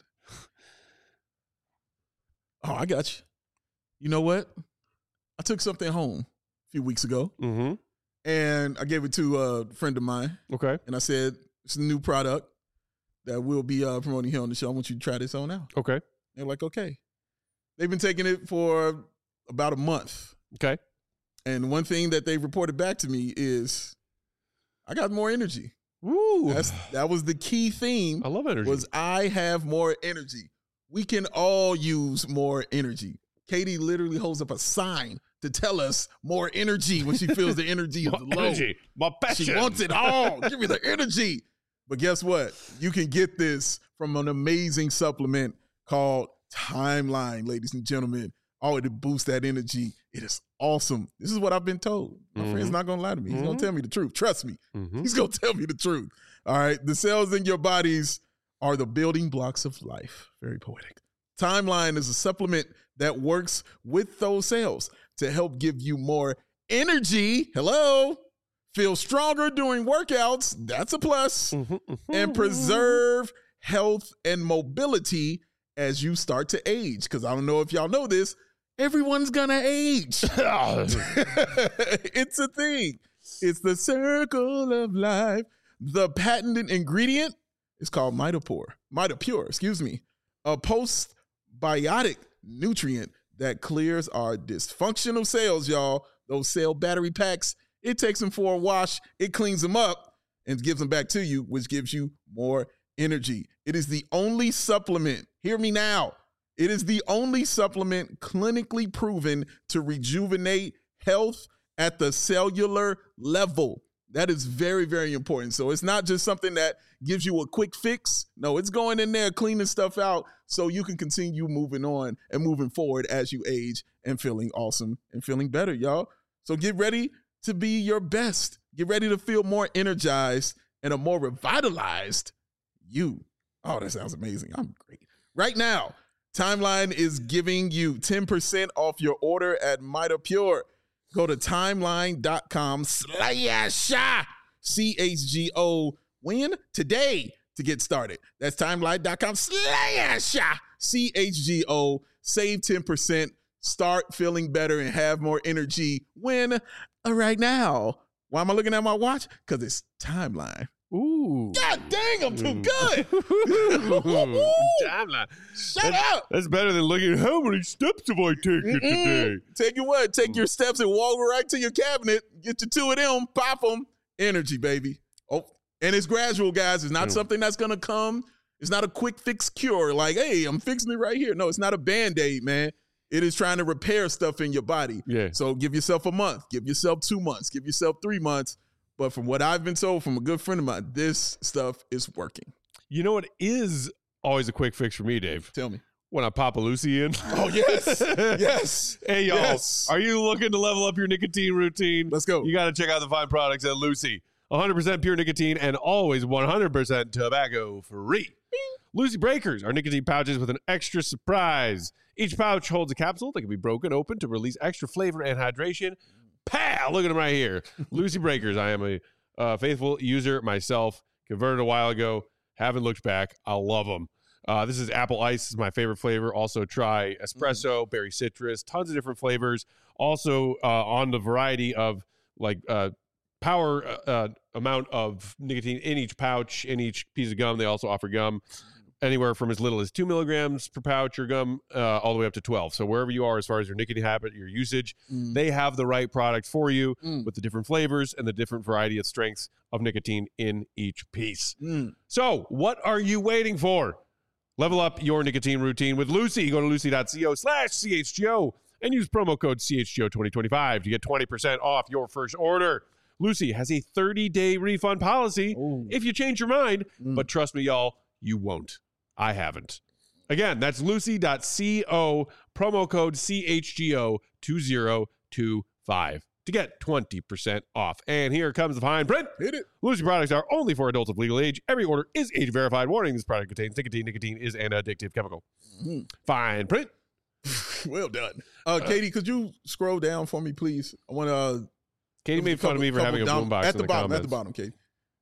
Oh, I got you. You know what? I took something home a few weeks ago, Mm-hmm. and I gave it to a friend of mine, Okay. and I said, it's a new product that we'll be uh, promoting here on the show. I want you to try this on out. Okay. They're like, okay. They've been taking it for about a month. Okay. And one thing that they reported back to me is I got more energy. Woo. That's that was the key theme. I love energy. Was I have more energy. We can all use more energy. Katie literally holds up a sign to tell us more energy when she feels the energy is More low. energy. More passion. She wants it all. Give me the energy. But guess what? You can get this from an amazing supplement called Timeline, ladies and gentlemen. Oh, to boost that energy. It is awesome. This is what I've been told. My Mhm. friend's not going to lie to me. He's going Mhm. to tell me the truth. Trust me. Mhm. He's going to tell me the truth. All right. The cells in your bodies are the building blocks of life. Very poetic. Timeline is a supplement that works with those cells to help give you more energy. Hello. Feel stronger during workouts. That's a plus. Mhm. Mhm. And preserve health and mobility as you start to age. Because I don't know if y'all know this. Everyone's going to age. It's a thing. It's the circle of life. The patented ingredient is called Mitopure. Mitopure, excuse me. A postbiotic nutrient that clears our dysfunctional cells, y'all. Those cell battery packs, it takes them for a wash. It cleans them up and gives them back to you, which gives you more energy. It is the only supplement. Hear me now. It is the only supplement clinically proven to rejuvenate health at the cellular level. That is very, very important. So it's not just something that gives you a quick fix. No, it's going in there, cleaning stuff out so you can continue moving on and moving forward as you age and feeling awesome and feeling better, y'all. So get ready to be your best. Get ready to feel more energized and a more revitalized you. Oh, that sounds amazing. I'm great. Right now, Timeline is giving you ten percent off your order at Mitopure. Go to timeline.com slash C H G O win today to get started. That's timeline.com slash C H G O. Save ten percent. Start feeling better and have more energy. Win right now. Why am I looking at my watch? Because it's Timeline. Ooh. God dang, I'm too good. Timeline. Shut That's- up. That's better than looking at how many steps have I taken today. Mm-mm. Take your what? Take your steps and walk right to your cabinet. Get you two of them. Pop them. Energy, baby. Oh, and it's gradual, guys. It's not Mm. something that's gonna come. It's not a quick fix cure. Like, hey, I'm fixing it right here. No, it's not a Band-Aid, man. It is trying to repair stuff in your body. Yeah. So give yourself a month. Give yourself two months. Give yourself three months. But from what I've been told from a good friend of mine, this stuff is working. You know what is always a quick fix for me, Dave? Tell me. When I pop a Lucy in. Oh, yes. Yes. Hey, y'all. Yes. Are you looking to level up your nicotine routine? Let's go. You got to check out the fine products at Lucy. one hundred percent pure nicotine and always one hundred percent tobacco free. Lucy Breakers are nicotine pouches with an extra surprise. Each pouch holds a capsule that can be broken open to release extra flavor and hydration. Pow! Look at them right here. Lucy Breakers. I am a uh, faithful user myself. Converted a while ago. Haven't looked back. I love them. Uh, this is apple ice. This is my favorite flavor. Also try espresso, berry citrus, tons of different flavors. Also uh, on the variety of like uh, power uh, amount of nicotine in each pouch, in each piece of gum. They also offer gum anywhere from as little as two milligrams per pouch or gum uh, all the way up to twelve. So wherever you are as far as your nicotine habit, your usage, mm. they have the right product for you mm. with the different flavors and the different variety of strengths of nicotine in each piece. Mm. So what are you waiting for? Level up your nicotine routine with Lucy. Go to lucy.co slash CHGO and use promo code C H G O twenty twenty-five to get twenty percent off your first order. Lucy has a thirty-day refund policy Ooh. if you change your mind, mm. but trust me, y'all, you won't. I haven't. Again, that's lucy.co, promo code C H G O two zero two five to get twenty percent off. And here comes the fine print. Hit it. Lucy products are only for adults of legal age. Every order is age verified. Warning, this product contains nicotine. Nicotine is an addictive chemical. Mm-hmm. Fine print. Well done. Uh, Katie, could you scroll down for me, please? I want to... Uh, Katie made fun couple, of me for having a boombox at the, the bottom. comments. At the bottom, Katie.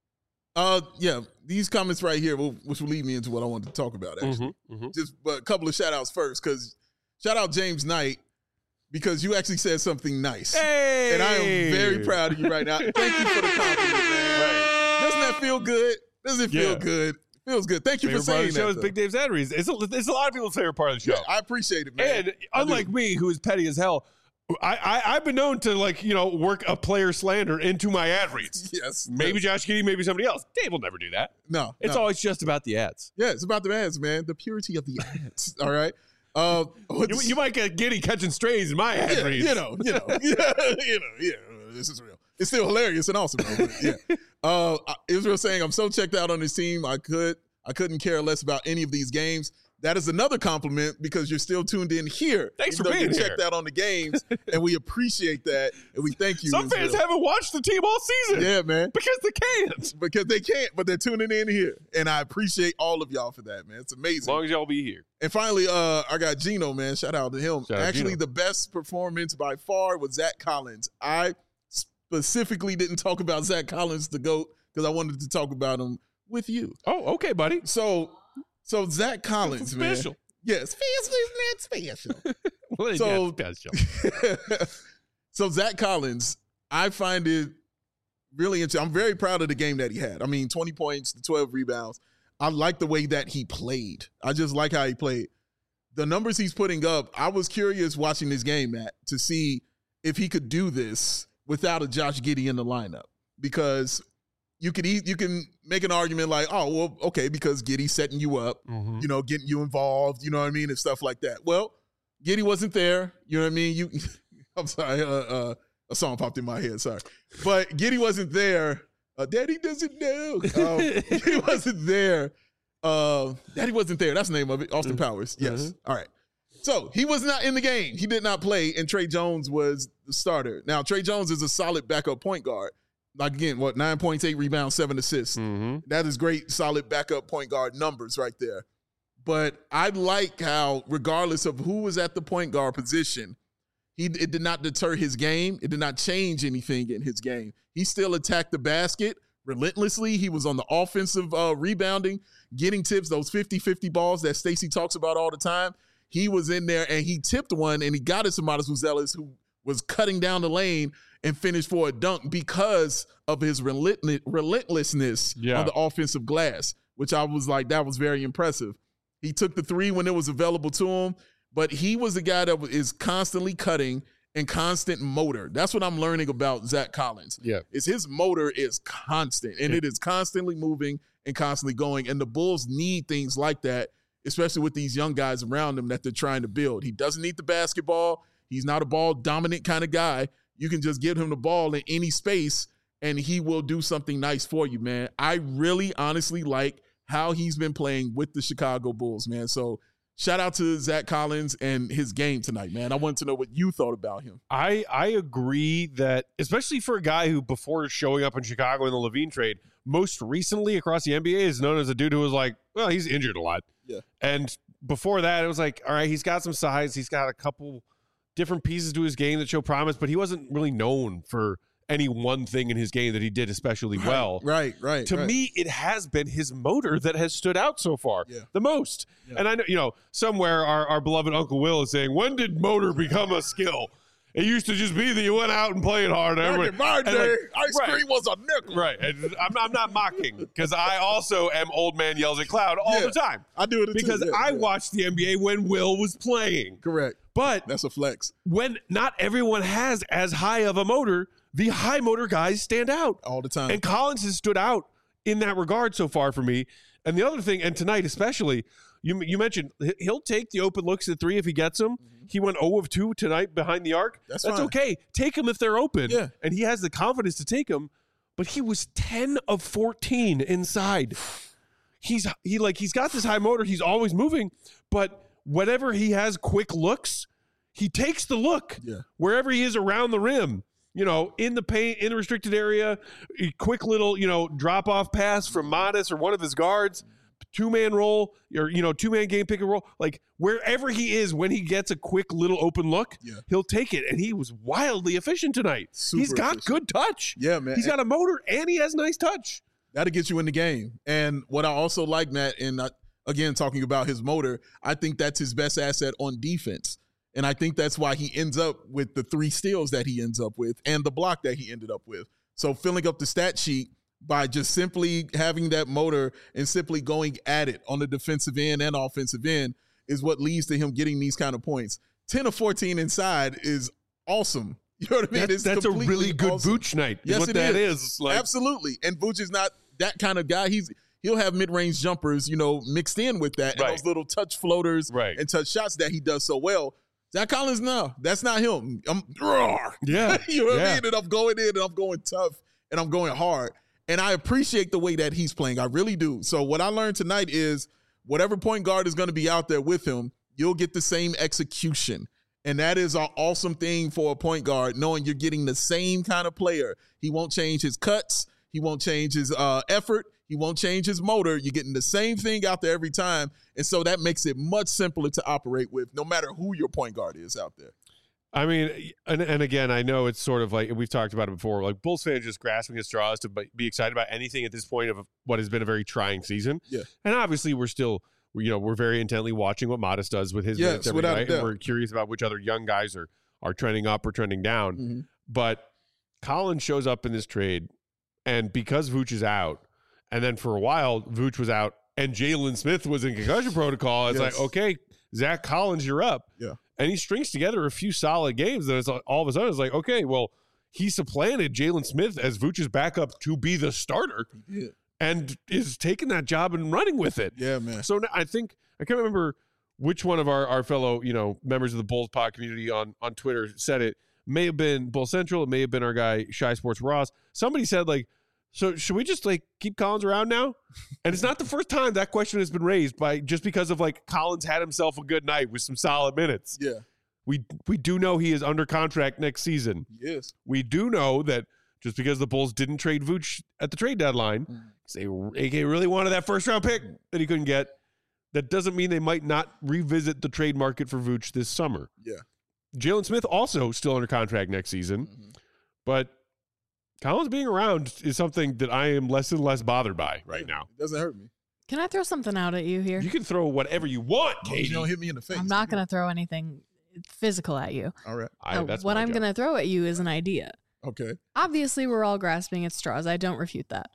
Uh, yeah, these comments right here, will, which will lead me into what I wanted to talk about, actually. Mm-hmm, mm-hmm. Just but a couple of shout-outs first, because shout out James Knight, because you actually said something nice. Hey! And I am very proud of you right now. Thank you for the compliment, man. Right. Doesn't that feel good? Doesn't it feel yeah. good? Feels good. Thank you favorite for saying part of the show that. is Big Dave's Adries. It's a, it's a lot of people's favorite part of the show. Yeah, I appreciate it, man. And unlike me, who is petty as hell, I, I, I've been known to, like, you know, work a player slander into my ad reads. Yes. Maybe yes. Josh Giddey, maybe somebody else. Dave will never do that. No. It's no. always just about the ads. Yeah, it's about the ads, man. The purity of the ads. All right. Uh, you, you might get Giddey catching strays in my ad yeah, reads. You know, you know, yeah, you know, yeah. This is real. It's still hilarious and awesome, though. Yeah. Uh, Israel saying, I'm so checked out on this team. I could, I couldn't care less about any of these games. That is another compliment because you're still tuned in here. Thanks for being you here. Checked out on the games, and we appreciate that, and we thank you. Some Israel. fans haven't watched the team all season. Yeah, man. Because they can't. Because they can't, but they're tuning in here, and I appreciate all of y'all for that, man. It's amazing. As long as y'all be here. And finally, uh, I got Gino, man. Shout out to him. Shout Actually, Gino. the best performance by far was Zach Collins. I specifically didn't talk about Zach Collins, the GOAT, because I wanted to talk about him with you. Oh, okay, buddy. So, so Zach Collins, special. man. Yes, special is not special. Well, so, special. So Zach Collins, I find it really interesting. I'm very proud of the game that he had. I mean, twenty points, twelve rebounds. I like the way that he played. I just like how he played. The numbers he's putting up, I was curious watching this game, Matt, to see if he could do this without a Josh Giddey in the lineup. Because you could you can make an argument like, oh, well, okay, because Giddey's setting you up, mm-hmm. you know, getting you involved, you know what I mean, and stuff like that. Well, Giddey wasn't there, you know what I mean? You, I'm sorry, uh, uh, a song popped in my head, sorry. But Giddey wasn't there. Uh, Daddy doesn't know. Um, Giddey wasn't there. Uh, Daddy wasn't there. That's the name of it. Austin Powers. Yes. Mm-hmm. All right. So he was not in the game. He did not play, and Trey Jones was the starter. Now, Trey Jones is a solid backup point guard. Like, again, what, nine points, eight rebounds, seven assists. Mm-hmm. That is great, solid backup point guard numbers right there. But I like how, regardless of who was at the point guard position, he it did not deter his game. It did not change anything in his game. He still attacked the basket relentlessly. He was on the offensive uh, rebounding, getting tips, those fifty-fifty balls that Stacey talks about all the time. He was in there, and he tipped one, and he got it to Modest Buzelis, who was cutting down the lane and finished for a dunk because of his relentless, relentlessness yeah. on the offensive glass, which I was like, that was very impressive. He took the three when it was available to him, but he was the guy that is constantly cutting and constant motor. That's what I'm learning about Zach Collins. Yeah. Is his motor is constant, and yeah. it is constantly moving and constantly going, and the Bulls need things like that, especially with these young guys around him that they're trying to build. He doesn't need the basketball. He's not a ball-dominant kind of guy. You can just give him the ball in any space, and he will do something nice for you, man. I really honestly like how he's been playing with the Chicago Bulls, man. So shout out to Zach Collins and his game tonight, man. I wanted to know what you thought about him. I, I agree that, especially for a guy who, before showing up in Chicago in the Levine trade, most recently across the N B A is known as a dude who was like, well, he's injured a lot. Yeah. And before that, it was like, all right, he's got some size. He's got a couple different pieces to his game that show promise, but he wasn't really known for any one thing in his game that he did especially right, well. Right, right. To right. me, it has been his motor that has stood out so far yeah. the most. Yeah. And I know, you know, somewhere our, our beloved Uncle Will is saying, when did motor become a skill? It used to just be that you went out and played hard. Back Everybody, in my and day, like- ice right. cream was a nickel. Right. And I'm, I'm not mocking because I also am old man yells at cloud all Yeah. the time. I do it Because too. Yeah, I yeah. watched the N B A when Will was playing. Correct. But That's a flex when not everyone has as high of a motor, the high motor guys stand out. all the time. And Collins has stood out in that regard so far for me. And the other thing, and tonight especially, you you mentioned he- he'll take the open looks at three if he gets them. He went zero of two tonight behind the arc. That's That's fine. okay. Take them if they're open. Yeah. And he has the confidence to take them. But he was ten of fourteen inside. He's he like he's got this high motor. He's always moving, but whenever he has quick looks, he takes the look Yeah. wherever he is around the rim. You know, in the paint, in the restricted area, a quick little, you know, drop off pass from Modest or one of his guards, two man roll, or, you know, two man game pick and roll. Like wherever he is, when he gets a quick little open look, Yeah. he'll take it. And he was wildly efficient tonight. Super He's got efficient. good touch. Yeah, man. He's got a motor and he has nice touch. That'll get you in the game. And what I also like, Matt, and I, again, talking about his motor, I think that's his best asset on defense. And I think that's why he ends up with the three steals that he ends up with and the block that he ended up with. So filling up the stat sheet by just simply having that motor and simply going at it on the defensive end and offensive end is what leads to him getting these kind of points. ten of fourteen inside is awesome. You know what I mean? That's, It's that's a completely really good awesome. Vooch night. Is Yes, what it that is. is. Like, Absolutely. And Vooch is not that kind of guy. He's he'll have mid-range jumpers, you know, mixed in with that, and Right. those little touch floaters Right. and touch shots that he does so well. Zach Collins, no, that's not him. I'm roar. Yeah. you know what Yeah. I mean? And I'm going in and I'm going tough and I'm going hard. And I appreciate the way that he's playing. I really do. So what I learned tonight is whatever point guard is going to be out there with him, you'll get the same execution. And that is an awesome thing for a point guard, knowing you're getting the same kind of player. He won't change his cuts. He won't change his uh, effort. He won't change his motor. You're getting the same thing out there every time. And so that makes it much simpler to operate with, no matter who your point guard is out there. I mean, and, and again, I know it's sort of like we've talked about it before. Like Bulls fans just grasping at straws to be be excited about anything at this point of what has been a very trying season. Yeah. And obviously, we're still, you know, we're very intently watching what Modest does with his Yes, minutes every without a night, and doubt. we're curious about which other young guys are are trending up or trending down. Mm-hmm. But Collins shows up in this trade, and because Vooch is out, and then for a while Vooch was out, and Jalen Smith was in concussion protocol. It's Yes. like, okay, Zach Collins, you're up. Yeah. And he strings together a few solid games. And it's like, all of a sudden, it's like, okay, well, he supplanted Jalen Smith as Vooch's backup to be the starter, Yeah, and is taking that job and running with it. yeah, man. So now I think I can't remember which one of our, our fellow, you know, members of the Bulls pod community on on Twitter said it. May have been Bull Central. It may have been our guy Shy Sports Ross. Somebody said like, so should we just like keep Collins around now? And it's not the first time that question has been raised by just because of like Collins had himself a good night with some solid minutes. Yeah, We we do know he is under contract next season. yes. We do know that just because the Bulls didn't trade Vooch at the trade deadline, Mm. they A K really wanted that first round pick that he couldn't get. That doesn't mean they might not revisit the trade market for Vooch this summer. Yeah. Jalen Smith also still under contract next season, Mhm. but Collins being around is something that I am less and less bothered by right now. It doesn't hurt me. Can I throw something out at you here? You can throw whatever you want, As long as Katie. you don't hit me in the face. I'm not going to throw anything physical at you. All right. I, Uh, that's what my I'm job. going to throw at you is an idea. Okay. Obviously, we're all grasping at straws. I don't refute that.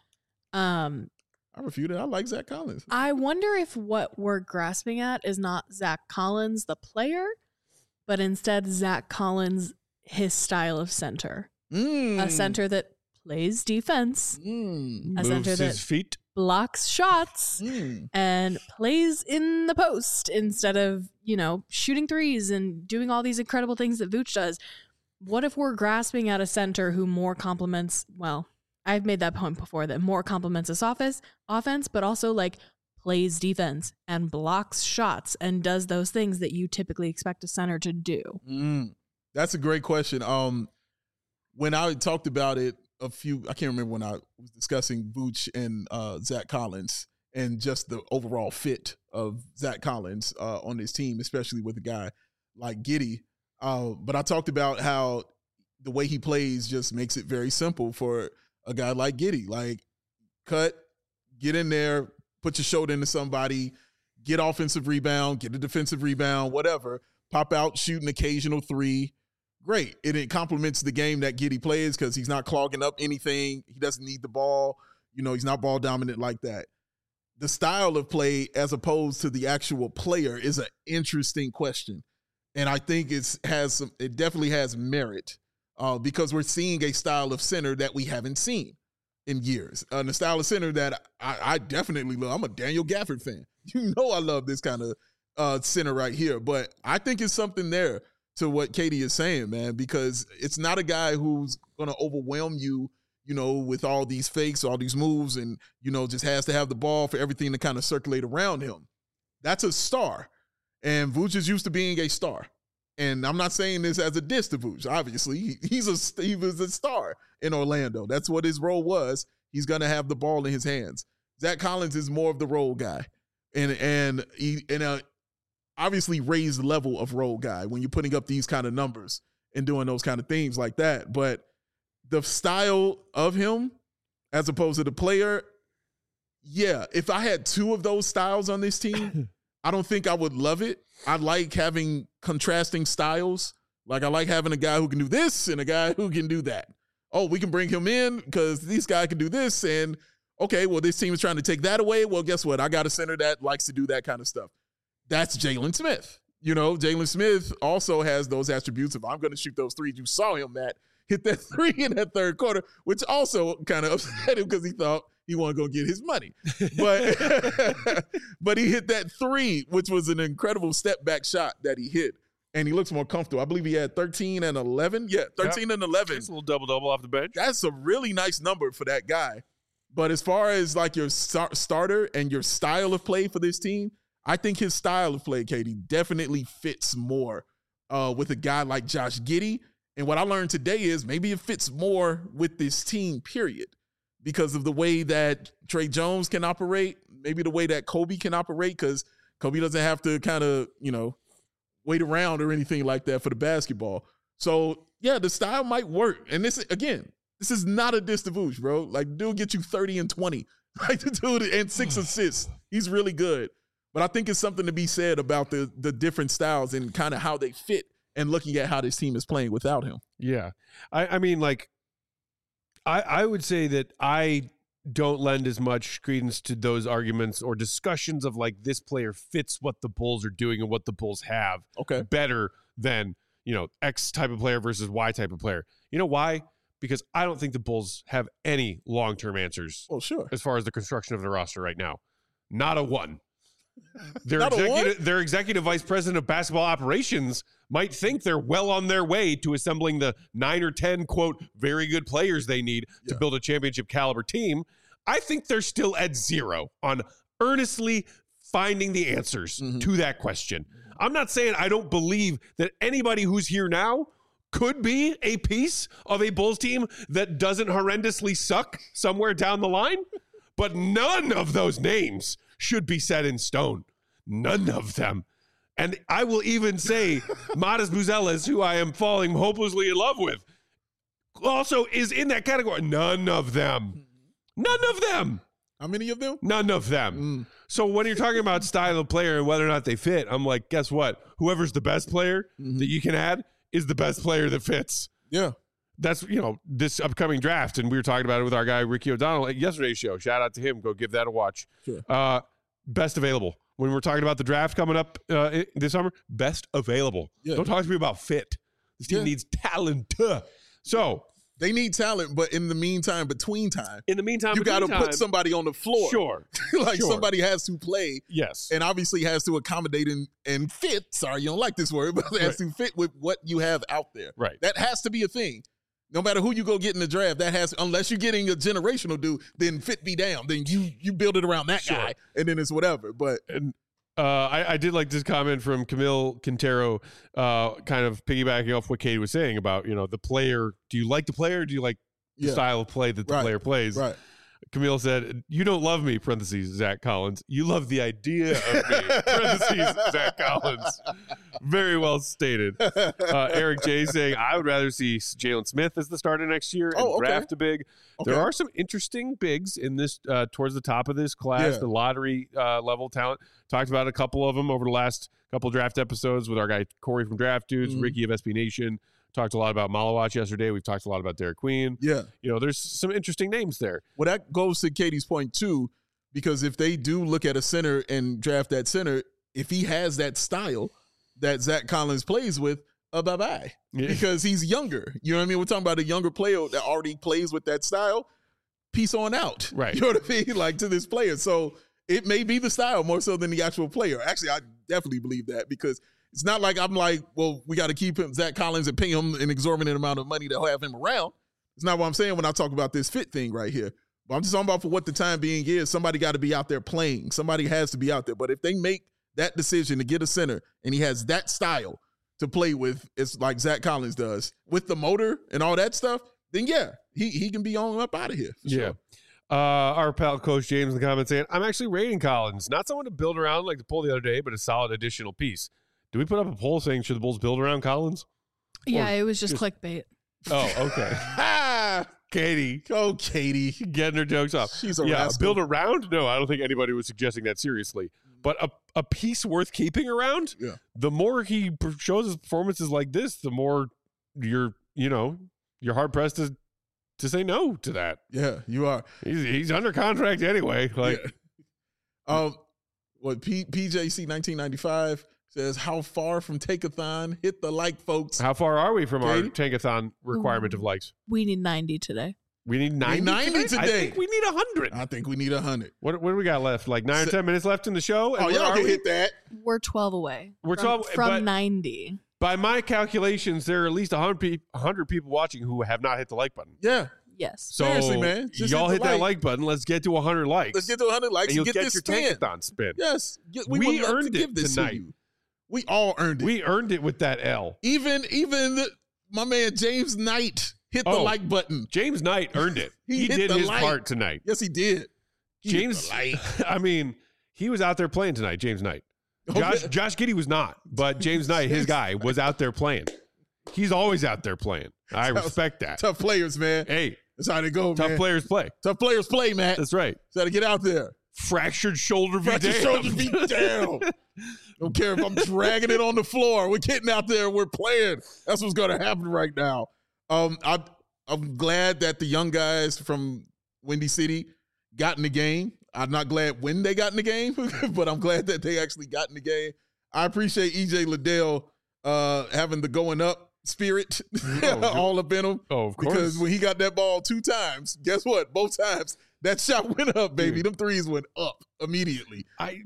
Um, I refute it. I like Zach Collins. I wonder if what we're grasping at is not Zach Collins, the player, but instead Zach Collins, his style of center. Mm. A center that plays defense, Mm. a center Moves that his feet. blocks shots, Mm. and plays in the post instead of, you know, shooting threes and doing all these incredible things that Vooch does. What if we're grasping at a center who more complements, well, I've made that point before, that more complements this office, offense, but also like plays defense and blocks shots and does those things that you typically expect a center to do. Mm. That's a great question. Um, when I talked about it a few, I can't remember when I was discussing Vooch and uh, Zach Collins and just the overall fit of Zach Collins uh, on his team, especially with a guy like Giddey. Uh, but I talked about how the way he plays just makes it very simple for a guy like Giddey. Like, cut, get in there, put your shoulder into somebody, get offensive rebound, get a defensive rebound, whatever. Pop out, shoot an occasional three, great. And it complements the game that Giddey plays because he's not clogging up anything. He doesn't need the ball. You know, he's not ball dominant like that. The style of play as opposed to the actual player is an interesting question. And I think it's has some, it definitely has merit uh, because we're seeing a style of center that we haven't seen in years. Uh, the style of center that I, I definitely love. I'm a Daniel Gafford fan. You know I love this kind of uh, center right here. But I think it's something there to what Katie is saying, man, because it's not a guy who's going to overwhelm you, you know, with all these fakes, all these moves, and, you know, just has to have the ball for everything to kind of circulate around him. That's a star. And Vooch is used to being a star. And I'm not saying this as a diss to Vooch. Obviously, he, he's a, he was a star in Orlando. That's what his role was. He's going to have the ball in his hands. Zach Collins is more of the role guy. And, and, he, and a obviously raised level of role guy when you're putting up these kind of numbers and doing those kind of things like that. But the style of him as opposed to the player, yeah, if I had two of those styles on this team, I don't think I would love it. I like having contrasting styles. Like I like having a guy who can do this and a guy who can do that. Oh, we can bring him in because this guy can do this. And okay, well, this team is trying to take that away. Well, guess what? I got a center that likes to do that kind of stuff. That's Jalen Smith. You know, Jalen Smith also has those attributes of I'm going to shoot those threes. You saw him, Matt, hit that three in that third quarter, which also kind of upset him because he thought he wasn't going to get his money. But but he hit that three, which was an incredible step back shot that he hit. And he looks more comfortable. I believe he had thirteen and eleven. Yeah, thirteen yep. and eleven. It's a little double-double off the bench. That's a really nice number for that guy. But as far as like your star- starter and your style of play for this team, I think his style of play, Katie, definitely fits more uh, with a guy like Josh Giddey. And what I learned today is maybe it fits more with this team, period, because of the way that Trey Jones can operate, maybe the way that Kobe can operate, because Kobe doesn't have to kind of, you know, wait around or anything like that for the basketball. So, yeah, the style might work. And this, again, this is not a diss to Vooch, bro. Like, dude get you thirty and twenty. Like, the dude, and six assists. He's really good. But I think it's something to be said about the the different styles and kind of how they fit and looking at how this team is playing without him. Yeah. I, I mean, like, I, I would say that I don't lend as much credence to those arguments or discussions of, like, this player fits what the Bulls are doing and what the Bulls have okay. better than, you know, X type of player versus Y type of player. You know why? Because I don't think the Bulls have any long-term answers oh, sure. as far as the construction of the roster right now. Not a one. Their Not executive, their executive vice president of basketball operations might think they're well on their way to assembling the nine or ten, quote, very good players they need yeah. to build a championship caliber team. I think they're still at zero on earnestly finding the answers mm-hmm. to that question. I'm not saying I don't believe that anybody who's here now could be a piece of a Bulls team that doesn't horrendously suck somewhere down the line, but none of those names should be set in stone. None of them. And I will even say Matas Buzelis, who I am falling hopelessly in love with, also is in that category. None of them. None of them. How many of them? None of them. Mm. So when you're talking about style of player and whether or not they fit, I'm like, guess what? Whoever's the best player mm-hmm. that you can add is the best player that fits. Yeah. That's, you know, this upcoming draft. And we were talking about it with our guy, Ricky O'Donnell, at yesterday's show. Shout out to him. Go give that a watch. Sure. Uh, best available. When we're talking about the draft coming up uh, this summer, best available. Yeah. Don't talk to me about fit. This team yeah. needs talent. So they need talent, but in the meantime, between time, in the meantime, you got to put somebody on the floor. Sure. like sure. somebody has to play. Yes. And obviously has to accommodate and, and fit. Sorry, you don't like this word, but it has right. to fit with what you have out there. Right. That has to be a thing. No matter who you go get in the draft, that has, unless you're getting a generational dude, then fit be damn. Then you you build it around that sure. guy, and then it's whatever. But and uh, I, I did like this comment from Camille Quintero, uh, kind of piggybacking off what Katie was saying about, you know, the player. Do you like the player? Or do you like the yeah. style of play that the right. player plays? Right. Camille said, "You don't love me," parentheses, Zach Collins. "You love the idea of me," parentheses, Zach Collins. Very well stated. Uh, Eric J saying, "I would rather see Jalen Smith as the starter next year and oh, okay. draft a big." Okay. There are some interesting bigs in this uh, towards the top of this class, yeah. the lottery uh, level talent. Talked about a couple of them over the last couple draft episodes with our guy Corey from Draft Dudes, Mhm. Ricky of S B Nation. Talked a lot about Malawatch yesterday. We've talked a lot about Derek Queen. Yeah. You know, there's some interesting names there. Well, that goes to Katie's point too, because if they do look at a center and draft that center, if he has that style that Zach Collins plays with, uh, bye bye, Yeah. because he's younger. You know what I mean? We're talking about a younger player that already plays with that style. Peace on out, Right. You know what I mean? Like to this player, so it may be the style more so than the actual player. Actually, I definitely believe that because it's not like I'm like, well, we got to keep him Zach Collins and pay him an exorbitant amount of money to have him around. It's not what I'm saying when I talk about this fit thing right here. But I'm just talking about for what the time being is. Somebody got to be out there playing. Somebody has to be out there. But if they make that decision to get a center and he has that style to play with, it's like Zach Collins does with the motor and all that stuff, then yeah, he he can be on up out of here. For Yeah. Sure. Uh, our pal Coach James in the comments saying, I'm actually rating Collins. Not someone to build around like the poll the other day, but a solid additional piece. Do we put up a poll saying should the Bulls build around Collins? Yeah, Or it was just just- clickbait. Oh, okay. Ah, Katie go Katie. getting her jokes off. She's a yeah, rascal. build around? No, I don't think anybody was suggesting that seriously. But a, a piece worth keeping around? Yeah. The more he per- shows his performances like this, the more you're, you know, you're hard pressed to to say no to that. Yeah, you are. He's he's under contract anyway. Like, Yeah. um, what P, PJC nineteen ninety-five says, how far from Take-a-thon? Hit the like, folks. how far are we from our Katie? tankathon requirement of likes? We need ninety today. We need ninety, ninety I today. think we need one hundred. I think we need a hundred. What, what do we got left? Like nine or So- ten minutes left in the show? And Oh, where y'all are can we? hit that. We're twelve away. We're from, twelve, from but- ninety. By my calculations, there are at least one hundred, pe- one hundred people watching who have not hit the like button. Yeah. Yes. So Seriously, man. Just y'all hit hit the that like. like button. Let's get to one hundred likes. Let's get to a hundred likes and you'll and get, get this your spin. tankathon spin. Yes. Get- We would love earned to it give this tonight. to you. We all earned it. We earned it with that L. even even the, my man James Knight hit the Oh. like button. James Knight earned it. He he hit did the his like. part tonight. Yes, he did. He hit James, the like. I mean, he was out there playing tonight, James Knight. Josh, Okay. Josh Giddey was not, but James Knight, his guy, was out there playing. He's always out there playing. I respect that. Tough players, man. Hey, That's how they go, tough man. players play. Tough players play, man. That's right. Got to get out there. Fractured shoulder be Fractured damned. shoulders be down. Don't care if I'm dragging it on the floor. We're getting out there. We're playing. That's what's going to happen right now. Um, I, I'm glad that the young guys from Windy City got in the game. I'm not glad when they got in the game, but I'm glad that they actually got in the game. I appreciate E J Liddell uh, having the going up spirit Oh, all up in him. Oh, of course. Because when he got that ball two times, guess what? Both times that shot went up, baby. Dude. Them threes went up immediately. I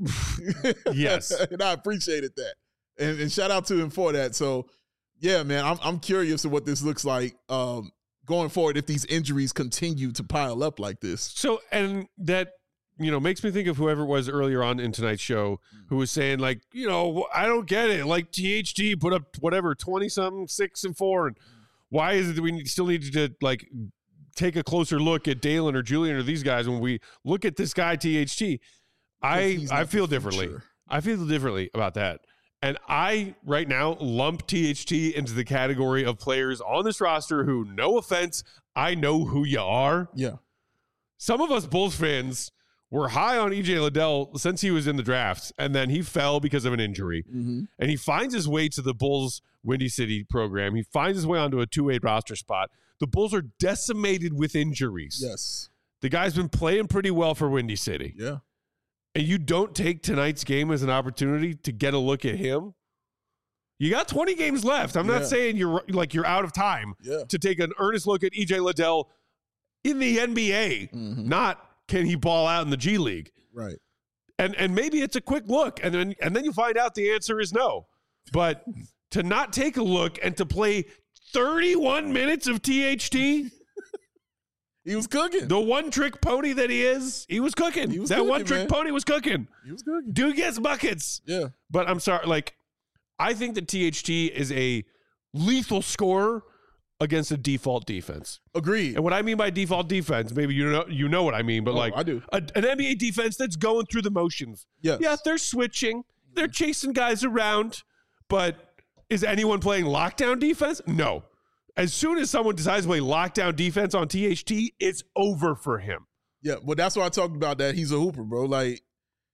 yes. and I appreciated that. And, and shout out to him for that. So, yeah, man, I'm I'm curious of what this looks like um, going forward if these injuries continue to pile up like this. So, and that, you know, makes me think of whoever it was earlier on in tonight's show who was saying, like, you know, I don't get it. Like, T H T put up whatever, twenty something, six and four. And why is it that we need- still need to, like, take a closer look at Dalen or Julian or these guys when we look at this guy, T H T? I, He's not I the feel differently. future. I feel differently about that. And I, right now, lump T H T into the category of players on this roster who, no offense, I know who you are. Yeah. Some of us Bulls fans were high on E J Liddell since he was in the draft, and then he fell because of an injury. Mm-hmm. And he finds his way to the Bulls Windy City program. He finds his way onto a two-way roster spot. The Bulls are decimated with injuries. Yes. The guy's been playing pretty well for Windy City. Yeah. And you don't take tonight's game as an opportunity to get a look at him. You got twenty games left. I'm Yeah. not saying you're like you're out of time Yeah. to take an earnest look at E J Liddell in the N B A, Mhm. not can he ball out in the G League. Right. And and maybe it's a quick look, and then and then you find out the answer is no. But to not take a look and to play thirty-one minutes of T H T, He was cooking. the one trick pony that he is, he was cooking. He was that cooking, one trick man. pony was cooking. He was cooking. Dude gets buckets. Yeah. But I'm sorry, like I think that T H T is a lethal scorer against a default defense. Agreed. And what I mean by default defense, maybe you know you know what I mean, but Oh, like I do. A, an N B A defense that's going through the motions. Yes. Yeah, they're switching, they're chasing guys around, but is anyone playing lockdown defense? No. As soon as someone decides to play lockdown defense on T H T, it's over for him. Yeah. Well, that's why I talked about that. He's a hooper, bro. Like,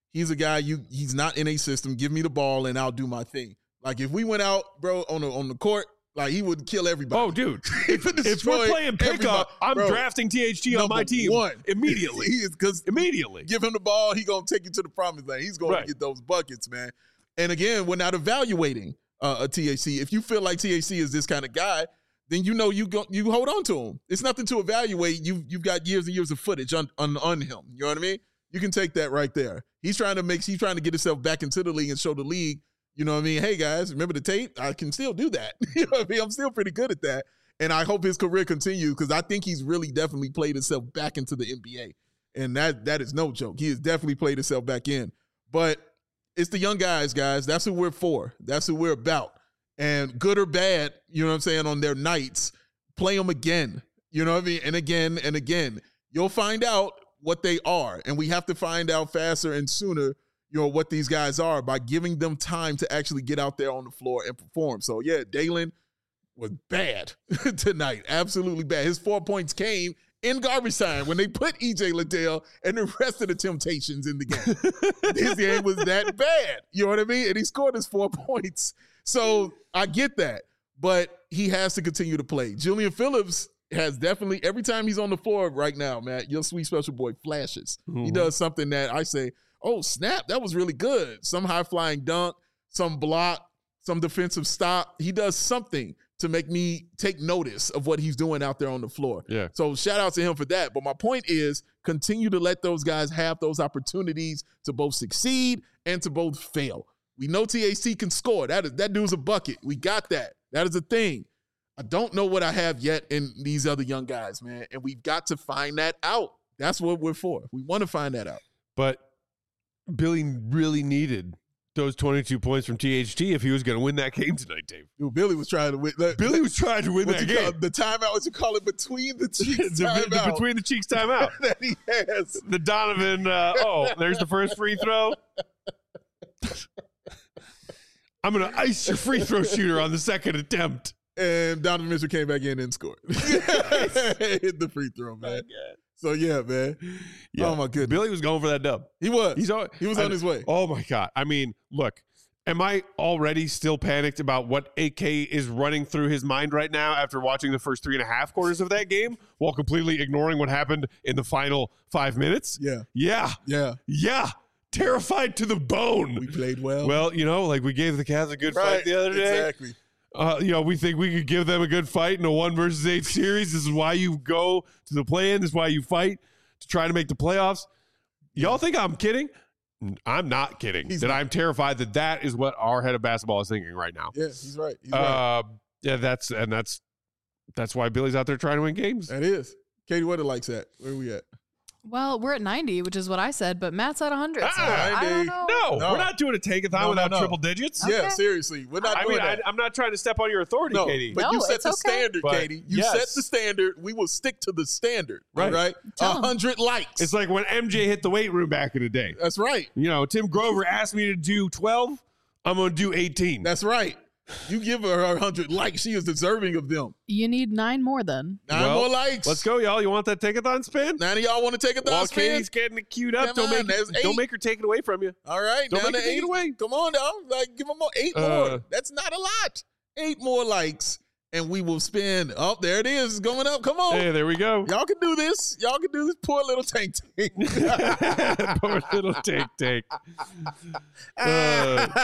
He's a guy you he's not in a system. Give me the ball and I'll do my thing. Like if we went out, bro, on the on the court, like he would kill everybody. Oh, dude. if If we're playing pickup, I'm bro, drafting T H T on my team one. immediately. He is because Immediately. give him the ball, he gonna take you to the promised land. He's gonna Right. get those buckets, man. And again, we're not evaluating uh, a T H C. If you feel like T H C is this kind of guy, then you know you go you hold on to him. It's nothing to evaluate. You you've got years and years of footage on, on on him. You know what I mean? You can take that right there. He's trying to make he's trying to get himself back into the league and show the league, you know what I mean? Hey guys, remember the tape? I can still do that. You know what I mean? I'm still pretty good at that. And I hope his career continues because I think he's really definitely played himself back into the N B A. And that that is no joke. He has definitely played himself back in. But it's the young guys, guys. That's who we're for. That's who we're about. And good or bad, you know what I'm saying, on their nights, play them again. You know what I mean? And again and again. You'll find out what they are. And we have to find out faster and sooner, you know, what these guys are by giving them time to actually get out there on the floor and perform. So, yeah, Dalen was bad tonight. Absolutely bad. His four points came in garbage time when they put E J Liddell and the rest of the Temptations in the game. His game was that bad. You know what I mean? And he scored his four points. So I get that. But he has to continue to play. Julian Phillips has definitely, every time he's on the floor right now, Matt, your sweet special boy flashes. Mm-hmm. He does something that I say, oh, snap, that was really good. Some high-flying dunk, some block, some defensive stop. He does something to make me take notice of what he's doing out there on the floor. Yeah. So shout out to him for that. But my point is, continue to let those guys have those opportunities to both succeed and to both fail. We know T H C can score. That is that dude's a bucket. We got that. That is a thing. I don't know what I have yet in these other young guys, man. And we've got to find that out. That's what we're for. We want to find that out. But Billy really needed those twenty-two points from T H T if he was going to win that game tonight, Dave. Dude, Billy was trying to win. Billy was trying to win that game. Call, the timeout, what you call it, between the cheeks the, timeout. the between the cheeks timeout. that he has. The Donovan, uh, oh, there's the first free throw. I'm going to ice your free throw shooter on the second attempt. And Donovan Mitchell came back in and scored. Hit the free throw, man. Oh, so, yeah, man. Yeah. Oh, my goodness. Billy was going for that dub. He was. He's all, he was I, on his way. Oh, my God. I mean, look, am I already still panicked about what A K is running through his mind right now after watching the first three and a half quarters of that game while completely ignoring what happened in the final five minutes? Yeah. Yeah. Yeah. Yeah. Terrified to the bone. We played well. Well, you know, like we gave the Cavs a good right. fight the other day. Exactly. Uh, you know, we think we could give them a good fight in a one versus eight series. This is why you go to the play-in. This is why you fight to try to make the playoffs. Y'all think I'm kidding? I'm not kidding. He's that not. I'm terrified that that is what our head of basketball is thinking right now. Yeah, he's right. He's uh, right. Yeah, that's and that's that's why Billy's out there trying to win games. That is. Katie, what it likes at? Where are we at? Well, we're at ninety, which is what I said, but Matt's at one hundred. So Ah, I don't know. No, No. we're not doing a take-a-thon No, no, without no. triple digits. Okay. Yeah, seriously. We're not I doing mean, I, that. I'm not trying to step on your authority, No, Katie. but No, you set it's the okay. standard, But Katie. You yes. set the standard. We will stick to the standard. Right. All right? Tell A 'em. hundred likes. It's like when M J hit the weight room back in the day. That's right. You know, Tim Grover asked me to do twelve. I'm going to do eighteen. That's right. You give her a hundred likes. She is deserving of them. You need nine more then. Nine Well, more likes. Let's go, y'all. You want that take-a-thon spin? Nine of y'all want to take a Well, thought spin? Katie's getting it queued up. Come Don't on, make, there's don't eight. make her take it away from you. All right, Don't down make to her take eight. it away. Come on, dog. Like, give them more. Eight Uh, more. That's not a lot. Eight more likes, and we will spin. Oh, there it is. It's going up. Come on. Hey, there we go. Y'all can do this. Y'all can do this. Poor little tank tank. Poor little take, take. Uh,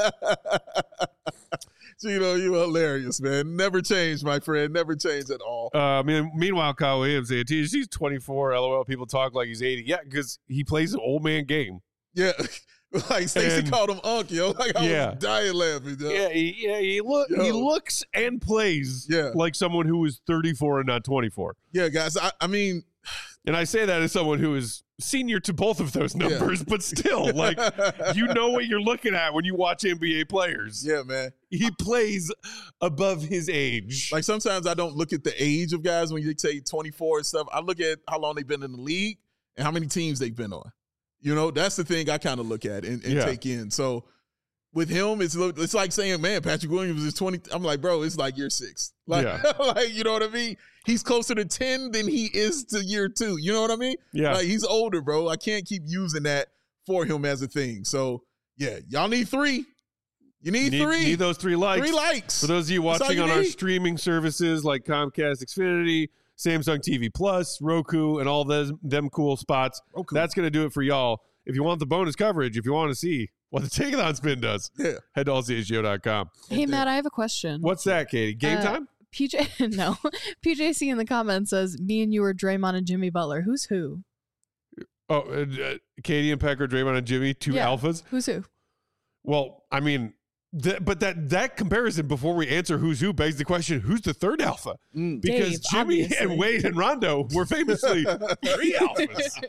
Gino, you hilarious, man. Never change, my friend. Never change at all. uh, I mean, meanwhile, Kyle Williams, T H C's twenty-four. LOL. People talk like he's eighty. Yeah, because he plays an old man game. Yeah. Like Stacey And- called him Unc, yo. Like I Yeah. was dying laughing, yo. Yeah, he, yeah, he look he Yo. looks and plays Yeah. like someone who is thirty-four and not twenty-four. Yeah, guys. I, I mean, And I say that as someone who is senior to both of those Yeah. numbers, but still, like, you know what you're looking at when you watch N B A players. yeah, man. He plays above his age. Like sometimes I don't look at the age of guys when you say twenty-four and stuff. I look at how long they've been in the league and how many teams they've been on. You know, that's the thing I kind of look at and, and Yeah. take in. So with him, it's it's like saying, man, Patrick Williams is twenty. I'm like, bro, it's like year six. Like, Yeah. like, you know what I mean? He's closer to ten than he is to year two. You know what I mean? Yeah. Like he's older, bro. I can't keep using that for him as a thing. So yeah, y'all need three. You need, need, three. Need those three likes. Three likes. For those of you That's all watching you on our need. streaming services like Comcast Xfinity, Samsung T V Plus, Roku, and all those them cool spots, Roku. that's going to do it for y'all. If you want the bonus coverage, if you want to see what the Take-A-Thon spin does, Yeah. head to all c h g o dot com. Hey, Matt, I have a question. What's that, Katie? Game Uh, time? P J, no. P J C in the comments says, me and you are Draymond and Jimmy Butler. Who's who? Oh, uh, uh, Katie and Pecker, Draymond and Jimmy, two Yeah. alphas. Who's who? Well, I mean, th- but that that comparison before we answer who's who begs the question: who's the third alpha? Mm. Because Dave, Jimmy obviously. and Wade and Rondo were famously three alphas.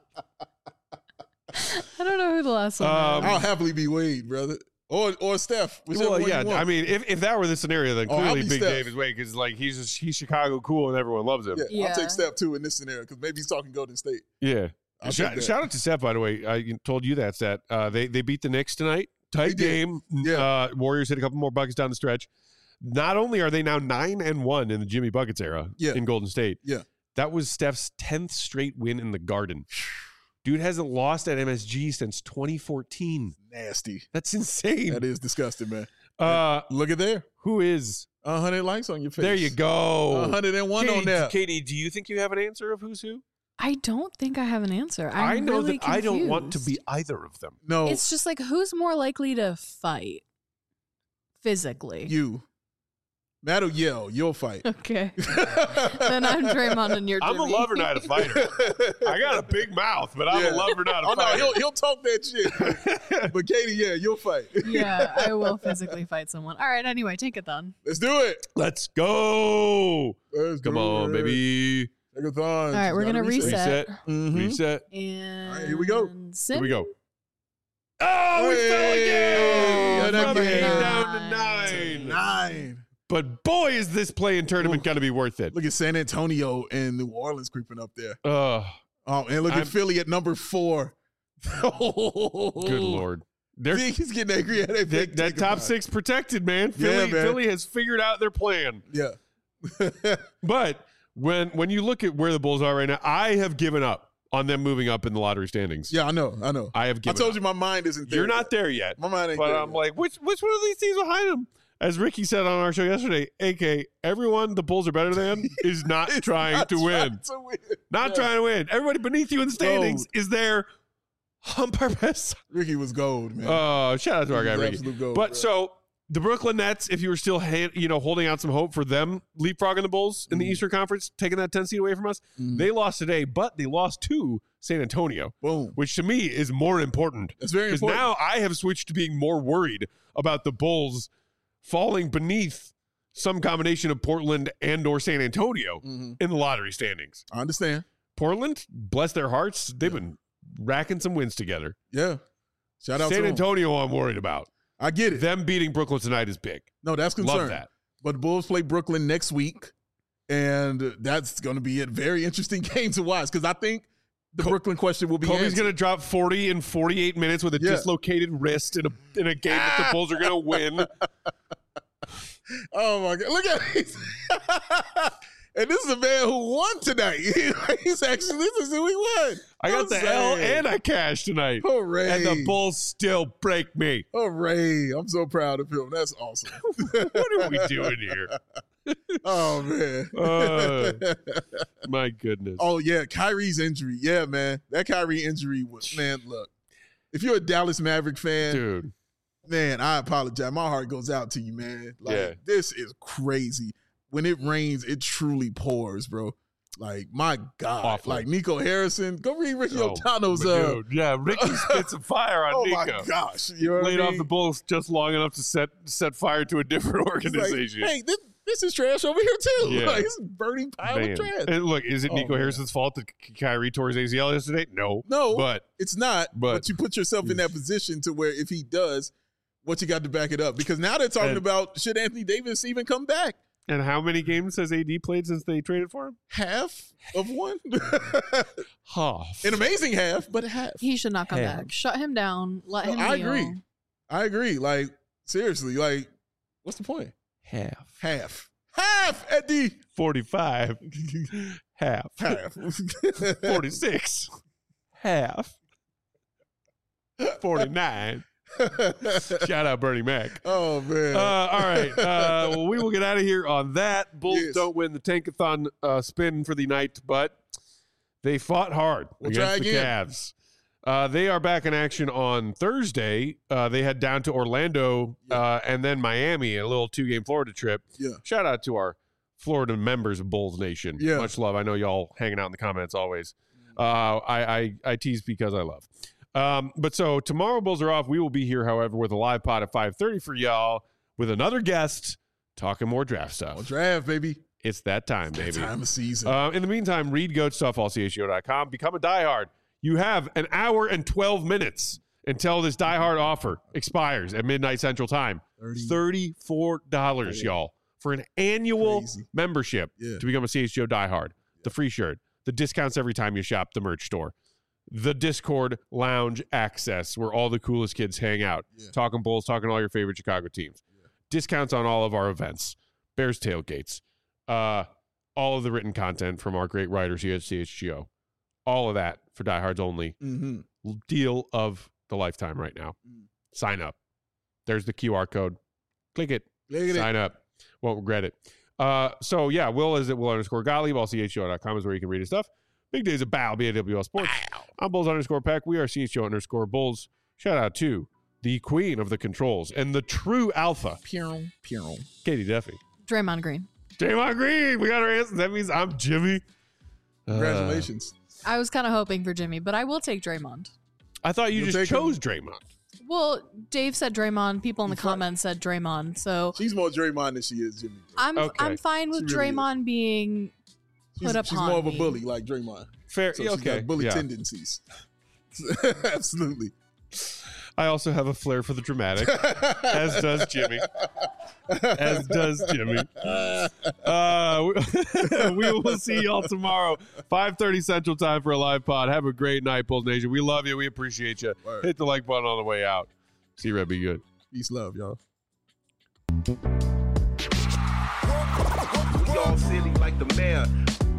I don't know who the last one Um, is. I'll happily be Wade, brother. Or or Steph. Whichever Well, one yeah. you want. I mean, if, if that were the scenario, then Oh, I'll clearly be Big Steph. Dave is Wade because like he's just, he's Chicago cool and everyone loves him. yeah, Yeah. I'll take Steph too in this scenario because maybe he's talking Golden State. Yeah. I'll Shout, take that. shout out to Seth, by the way. I told you that stat. Uh, they they beat the Knicks tonight. Tight They did. game. Yeah. Uh, Warriors hit a couple more buckets down the stretch. Not only are they now nine and one in the Jimmy Buckets era Yeah. in Golden State. Yeah. That was Steph's tenth straight win in the Garden. Dude hasn't lost at M S G since twenty fourteen. Nasty. That's insane. That is disgusting, man. Uh, Look at there. who is? A hundred likes on your face. There you go. A hundred and one Katie, on that. Katie, do you think you have an answer of who's who? I don't think I have an answer. I'm I know really that I don't want to confused. be either of them. No, It's just like, who's more likely to fight physically? you. Matt will yell. You'll fight. Okay. Then I'm Draymond and you're I'm a Jimmy. lover, not a fighter. I got a big mouth, but I'm Yeah. a lover, not a Oh no, fighter. he'll he'll talk that shit. But Katie, yeah, you'll fight. Yeah, I will physically fight someone. All right, anyway, take it then. Let's do it. Let's go. Let's Come do on, it. baby. Take a thon. All right, we're Gotta gonna reset. Reset. Mhm. Reset. And right, here we go. Sim? Here we go. Oh, we fell Hey, again. yeah, From that eight game. down to nine. Nine. But boy, is this play-in tournament going to be worth it. Look at San Antonio and New Orleans creeping up there. Oh, Oh, and look I'm- at Philly at number four. good Lord. They're, See, he's getting angry at it. that, that top six protected, man. Yeah, Philly, man. Philly has figured out their plan. Yeah. But when when you look at where the Bulls are right now, I have given up on them moving up in the lottery standings. Yeah, I know. I know. I have I given told up. you my mind isn't there. You're not there yet. My mind ain't But there. I'm yet. like, which which one of these teams behind them? As Ricky said on our show yesterday, A K, everyone the Bulls are better than is not It's trying not to trying win. to win. Not Yeah. trying to win. Everybody beneath you in the standings is there on purpose. Ricky was gold, man. Oh, shout out to our He guy was Ricky. absolute gold, But bro. so the Brooklyn Nets, if you were still hand, you know holding out some hope for them leapfrogging the Bulls in the Mhm. Eastern Conference, taking that ten seed away from us, Mhm. they lost today, but they lost to San Antonio, Boom. which to me is more important. That's very Because important. now I have switched to being more worried about the Bulls falling beneath some combination of Portland and or San Antonio Mhm. in the lottery standings. I understand. Portland, bless their hearts, they've been racking some wins together. Yeah. Shout out San to him. Antonio, I'm worried about. I get it. Them beating Brooklyn tonight is big. No, that's concern. Love that. But the Bulls play Brooklyn next week, and that's going to be a very interesting game to watch because I think the Co- Brooklyn question will be Kobe's answered. going to drop forty in forty-eight minutes with a Yeah. dislocated wrist in a in a game that the Bulls are going to win. Oh my God! Look at it. And this is a man who won tonight. He's actually this is who he won. I got I'm the L saying. and I cashed tonight. Hooray! And the Bulls still break me. Hooray! I'm so proud of him. That's awesome. What are we doing here? Oh man. Uh, My goodness. Oh yeah, Kyrie's injury. Yeah, man. That Kyrie injury was man. Look, if you're a Dallas Maverick fan, Dude. man, I apologize. My heart goes out to you, man. Like Yeah. this is crazy. When it rains, it truly pours, bro. Like my God, Awful. like Nico Harrison. Go read Ricky Oh, O'Donnell's. but Uh, dude, yeah, Ricky spit some fire on oh Nico. my gosh, you know what Laid I off mean? the Bulls just long enough to set set fire to a different It's like, organization. hey, this, this is trash over here too. Yeah. Like it's a burning pile Man. of trash. And look, is it Oh, Nico man. Harrison's fault that Ky- Kyrie tore his A C L yesterday? No. No, But it's not. But, but- you put yourself in that position to where if he does, what you got to back it up? Because now they're talking And- about should Anthony Davis even come back? and how many games has A D played since they traded for him? Half of one, Half. an amazing half, but half. He should not come Hell. back. Shut him down. Let him I kneel. agree. I agree. Like seriously, like what's the point? Half. Half, half at the forty-five. Half. half. forty-six. Half. forty-nine. Shout out Bernie Mac. Oh, man. Uh, all right. Uh, well, we will get out of here on that. Bulls Yes. don't win the Tankathon uh, spin for the night, but they fought hard We'll against try the again. Cavs. Uh, they are back in action on Thursday. Uh, they head down to Orlando uh, and then Miami, a little two-game Florida trip. Yeah. Shout out to our Florida members of Bulls Nation. Yeah. Much love. I know y'all hanging out in the comments always. Uh, I, I, I tease because I love. Um, but so tomorrow Bulls are off. We will be here, however, with a live pod at five thirty for y'all with another guest talking more draft stuff. Well, draft, baby. It's that time, That baby. time of season. Uh, in the meantime, read goat stuff, all C H G O dot com. Become a diehard. You have an hour and twelve minutes until this diehard offer expires at midnight Central Time. thirty thirty-four dollars, Yeah. y'all, for an annual Crazy. membership Yeah. to become a C H G O diehard. The free shirt, the discounts every time you shop the merch store, the Discord lounge access where all the coolest kids hang out, Yeah. talking Bulls, talking all your favorite Chicago teams, Yeah. discounts on all of our events, Bears tailgates, uh, all of the written content from our great writers here at C H G O. All of that for diehards only. Mm-hmm. Deal of the lifetime right now. Mm. Sign up. There's the Q R code. Click it. Look at it. Sign up. Won't regret it. Uh, so, yeah, Will is at Will underscore Gottlieb. All C H G O dot com is where you can read his stuff. Big Days of Bow, B A W L Sports. I'm Bulls underscore Peck. We are C H G O underscore Bulls. Shout out to the queen of the controls and the true alpha, Pew, pew. Katie Duffy. Draymond Green. Draymond Green. We got our answers. That means I'm Jimmy. Uh, Congratulations. I was kind of hoping for Jimmy, but I will take Draymond. I thought you You'll just take him? chose Draymond. Well, Dave said Draymond. People in the You fi- comments said Draymond. So She's more Draymond than she is Jimmy. I'm Okay. I'm fine with She really is. Draymond being She's, put she's upon more of a me. bully like Draymond. Fair. So yeah, she's okay. got bully yeah. tendencies. Absolutely. I also have a flair for the dramatic, as does Jimmy. As does Jimmy. Uh, we, we will see y'all tomorrow, five thirty Central Time for a live pod. Have a great night, Bulls Nation. We love you. We appreciate you. Word. Hit the like button on the way out. See you, Red. Be good. Peace, love, y'all. We all silly like the mayor.